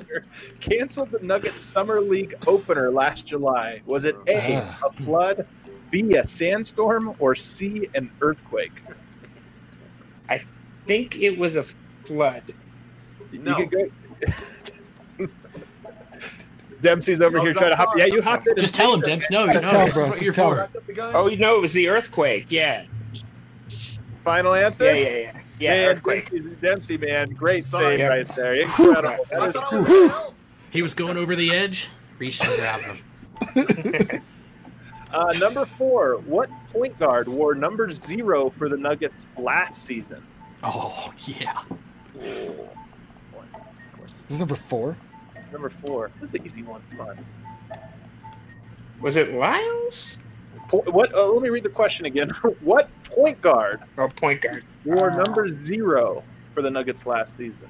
roster canceled the Nuggets Summer League opener last July? Was it A, a flood, B, a sandstorm, or C, an earthquake? I think it was a flood. No. You could go. Dempsey's over No, here I'm trying to hop. sorry. Yeah, you hopped in. Just tell him, Debs. No, you Just know tell, this is bro. what you're Just tell for. him. Oh, no, it was the earthquake. Yeah. Final answer? Yeah, yeah, yeah. Yeah, Man, earthquake. Dempsey, Dempsey, man, great Sorry. save right there. Incredible. I That is thought I was gonna help. He was going over the edge, reached and grabbed him. Uh, number four, what point guard wore number zero for the Nuggets last season? Oh, yeah. This is number four. It's number four. This is an easy one. Come on. Was it Lyles? Po- what? Uh, let me read the question again. What point guard Oh, point guard. wore Uh, number zero for the Nuggets last season?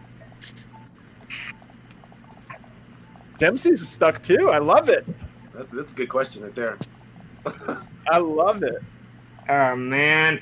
Dempsey's stuck too. I love it. That's that's a good question right there. I love it. Oh, man.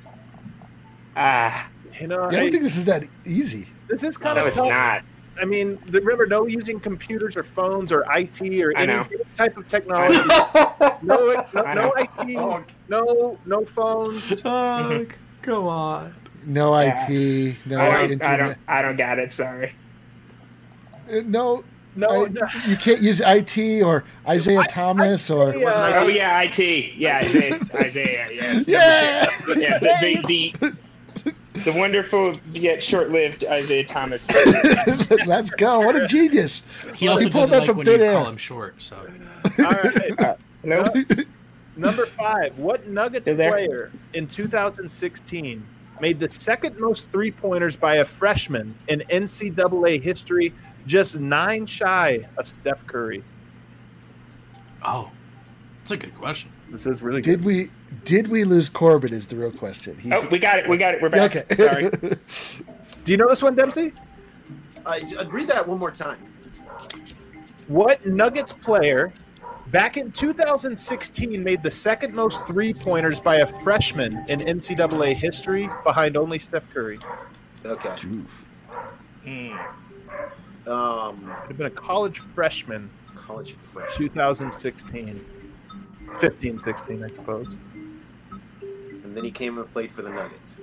Ah, You know, Yeah, I I- don't think this is that easy. this is kind no, of it's tough. not. I mean, the- remember, no using computers or phones or I T or I any know. type of technology. no, no, I no know. I T, Oh. no, no phones. Oh, come on. No Yeah. I T. No I don't, I internet. don't, I don't got it. Sorry. Uh, No, No, I- no. you can't use I T or Isaiah Thomas or. Yeah. Oh yeah, I T. Yeah, Isaiah. Isaiah. Yeah. Yeah! Yeah. The, the, the, the wonderful yet short-lived Isaiah Thomas. Let's go. What a genius. He also He pulled doesn't that like from when you thin air. call him short, so. All right. No. Number five. What Nuggets You're there? player in two thousand sixteen made the second most three pointers by a freshman in N C double A history, just nine shy of Steph Curry? Oh, that's a good question. This is really good. Did we did we lose Corbin is the real question. He, Oh, we got it. We got it. We're back. okay. Sorry. Do you know this one, Dempsey? Uh, j- read that one more time. What Nuggets player back in two thousand sixteen made the second most three-pointers by a freshman in N C double A history, behind only Steph Curry? Okay. Mm. Um, Could have been a college freshman, college fresh. two thousand sixteen. fifteen, sixteen, I suppose. And then he came and played for the Nuggets.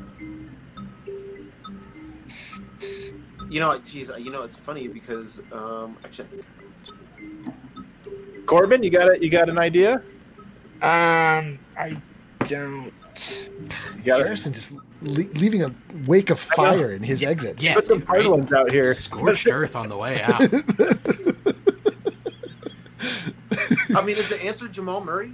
You know, geez, you know, it's funny because um, actually, Corbin, you got a, you got an idea? Um, I don't. You got it. Harrison just le- leaving a wake of fire in his exit. Yeah, Put some dude, hard right? ones out here. Scorched earth on the way out. I mean, is the answer Jamal Murray?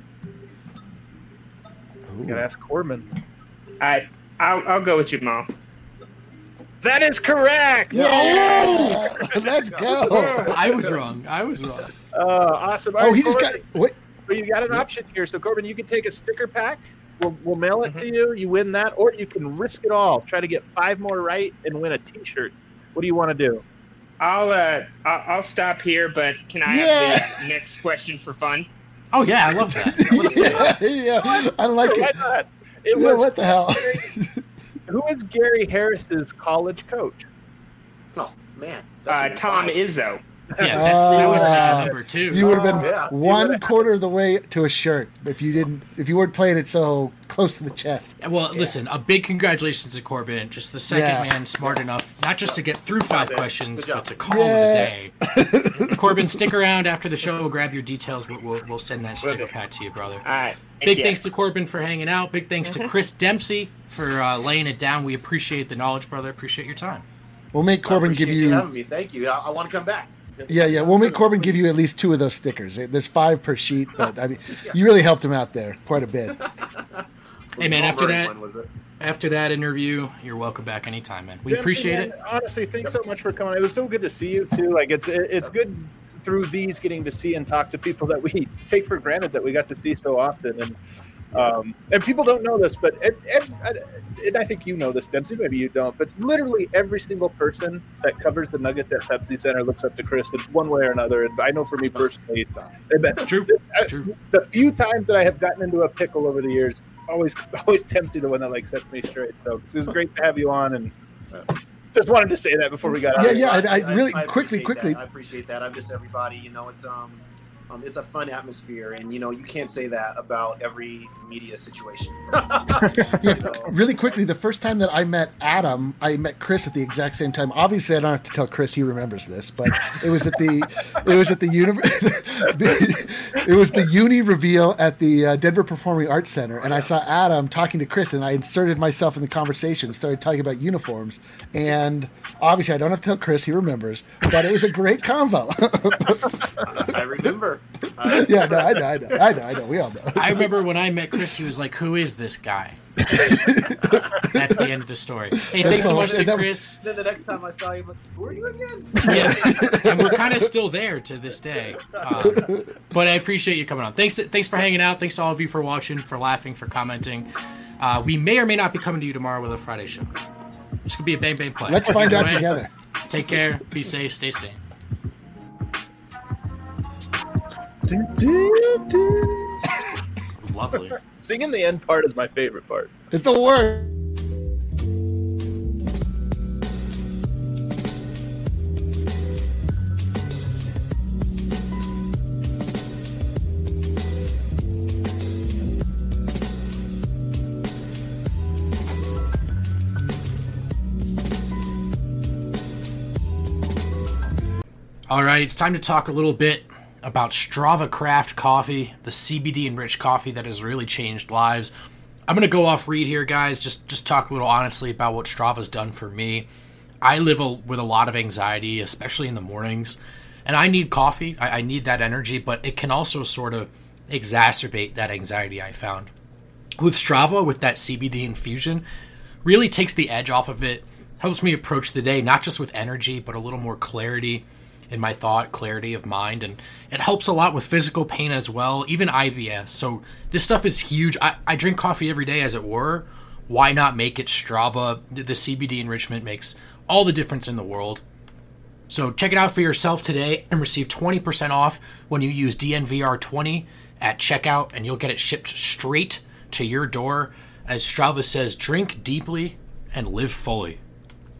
You gotta ask Corbin. I. I'll. I'll go with you, Mom. That is correct. Yeah! Let's go. I was wrong. I was wrong. Uh, awesome. All Oh, right, he just got. Corbin, Wait, so you got an option here. So Corbin, you can take a sticker pack. We'll, we'll mail it to you. You win that, or you can risk it all. Try to get five more right and win a T-shirt. What do you want to do? I'll. Uh. I'll, I'll stop here. But can I Yeah. have the next question for fun? Oh, yeah, I love that. yeah, yeah, I like Why it. not? It Yeah, was what the hell? who is Gary Harris's college coach? Oh man, Uh, a Tom five. Izzo. Yeah, that's, that was uh, Ah. number two. You would have been Yeah. one quarter of the way to a shirt if you didn't. If you weren't playing it so close to the chest. Well, listen, a big congratulations to Corbin. Just the second Yeah. man smart enough, not just to get through five questions, Good job. but to call Yeah. it a day. Corbin, stick around after the show. We'll grab your details. We'll, we'll, we'll send that sticker do. pack to you, brother. All right. Big Yeah. thanks to Corbin for hanging out. Big thanks to Chris Dempsey for uh, laying it down. We appreciate the knowledge, brother. Appreciate your time. We'll make I Corbin give appreciate you. having me. Thank you. I, I want to come back. Yeah, yeah. We'll make Corbin give you Please. at least two of those stickers. There's five per sheet, but I mean, you really helped him out there quite a bit. Hey, man, Jamal after Murray that- one, was it? After that interview, you're welcome back anytime, man. We Dempsey, appreciate man, it. Honestly, thanks so much for coming. It was so good to see you too. Like it's it, it's good through these getting to see and talk to people that we take for granted that we got to see so often. And um, and people don't know this, but and, and, and I think you know this, Dempsey. Maybe you don't, but literally every single person that covers the Nuggets at Pepsi Center looks up to Chris in one way or another. And I know for me personally, It's true. It's true. the few times that I have gotten into a pickle over the years, always always Dempsey the one that like sets me straight. So it was great to have you on, and uh, Just wanted to say that before we got out. Yeah, of yeah. I, I- I really I quickly, appreciate quickly. that. I appreciate that. I'm just everybody. You know, it's um, um, it's a fun atmosphere, and you know, you can't say that about every media situation. Yeah, You know? really quickly, the first time that I met Adam, I met Chris at the exact same time. Obviously, I don't have to tell Chris; he remembers this, but it was at the, it was at the uni, the, it was the uni reveal at the uh, Denver Performing Arts Center, and I saw Adam talking to Chris, and I inserted myself in the conversation, started talking about uniforms, and obviously, I don't have to tell Chris; he remembers, but it was a great convo. I remember. I Yeah, no, I know, I know, I know, I know. We all know. I remember when I met Chris, he was like, "Who is this guy?" That's the end of the story. Hey, thanks so much to Chris. Then the next time I saw you, I'm like, who are you again? Yeah, and we're kind of still there to this day. Um, but I appreciate you coming on. Thanks, thanks for hanging out. Thanks to all of you for watching, for laughing, for commenting. Uh, we may or may not be coming to you tomorrow with a Friday show. This could be a bang bang play. Let's find Either out way, together. Take care. Be safe. Stay sane. Lovely. Singing the end part is my favorite part. It's the word. All right, it's time to talk a little bit about Strava Craft Coffee, the C B D enriched coffee that has really changed lives. I'm going to go off read here, guys. Just just talk a little honestly about what Strava's done for me. I live a, with a lot of anxiety, especially in the mornings, and I need coffee. I, I need that energy, but it can also sort of exacerbate that anxiety I found. With Strava, with that C B D infusion, really takes the edge off of it, helps me approach the day, not just with energy, but a little more clarity in my thought, clarity of mind, and it helps a lot with physical pain as well, even I B S. So this stuff is huge. I, I drink coffee every day, as it were. Why not make it Strava? The, the C B D enrichment makes all the difference in the world. So check it out for yourself today and receive twenty percent off when you use D N V R twenty at checkout, and you'll get it shipped straight to your door. As Strava says, drink deeply and live fully.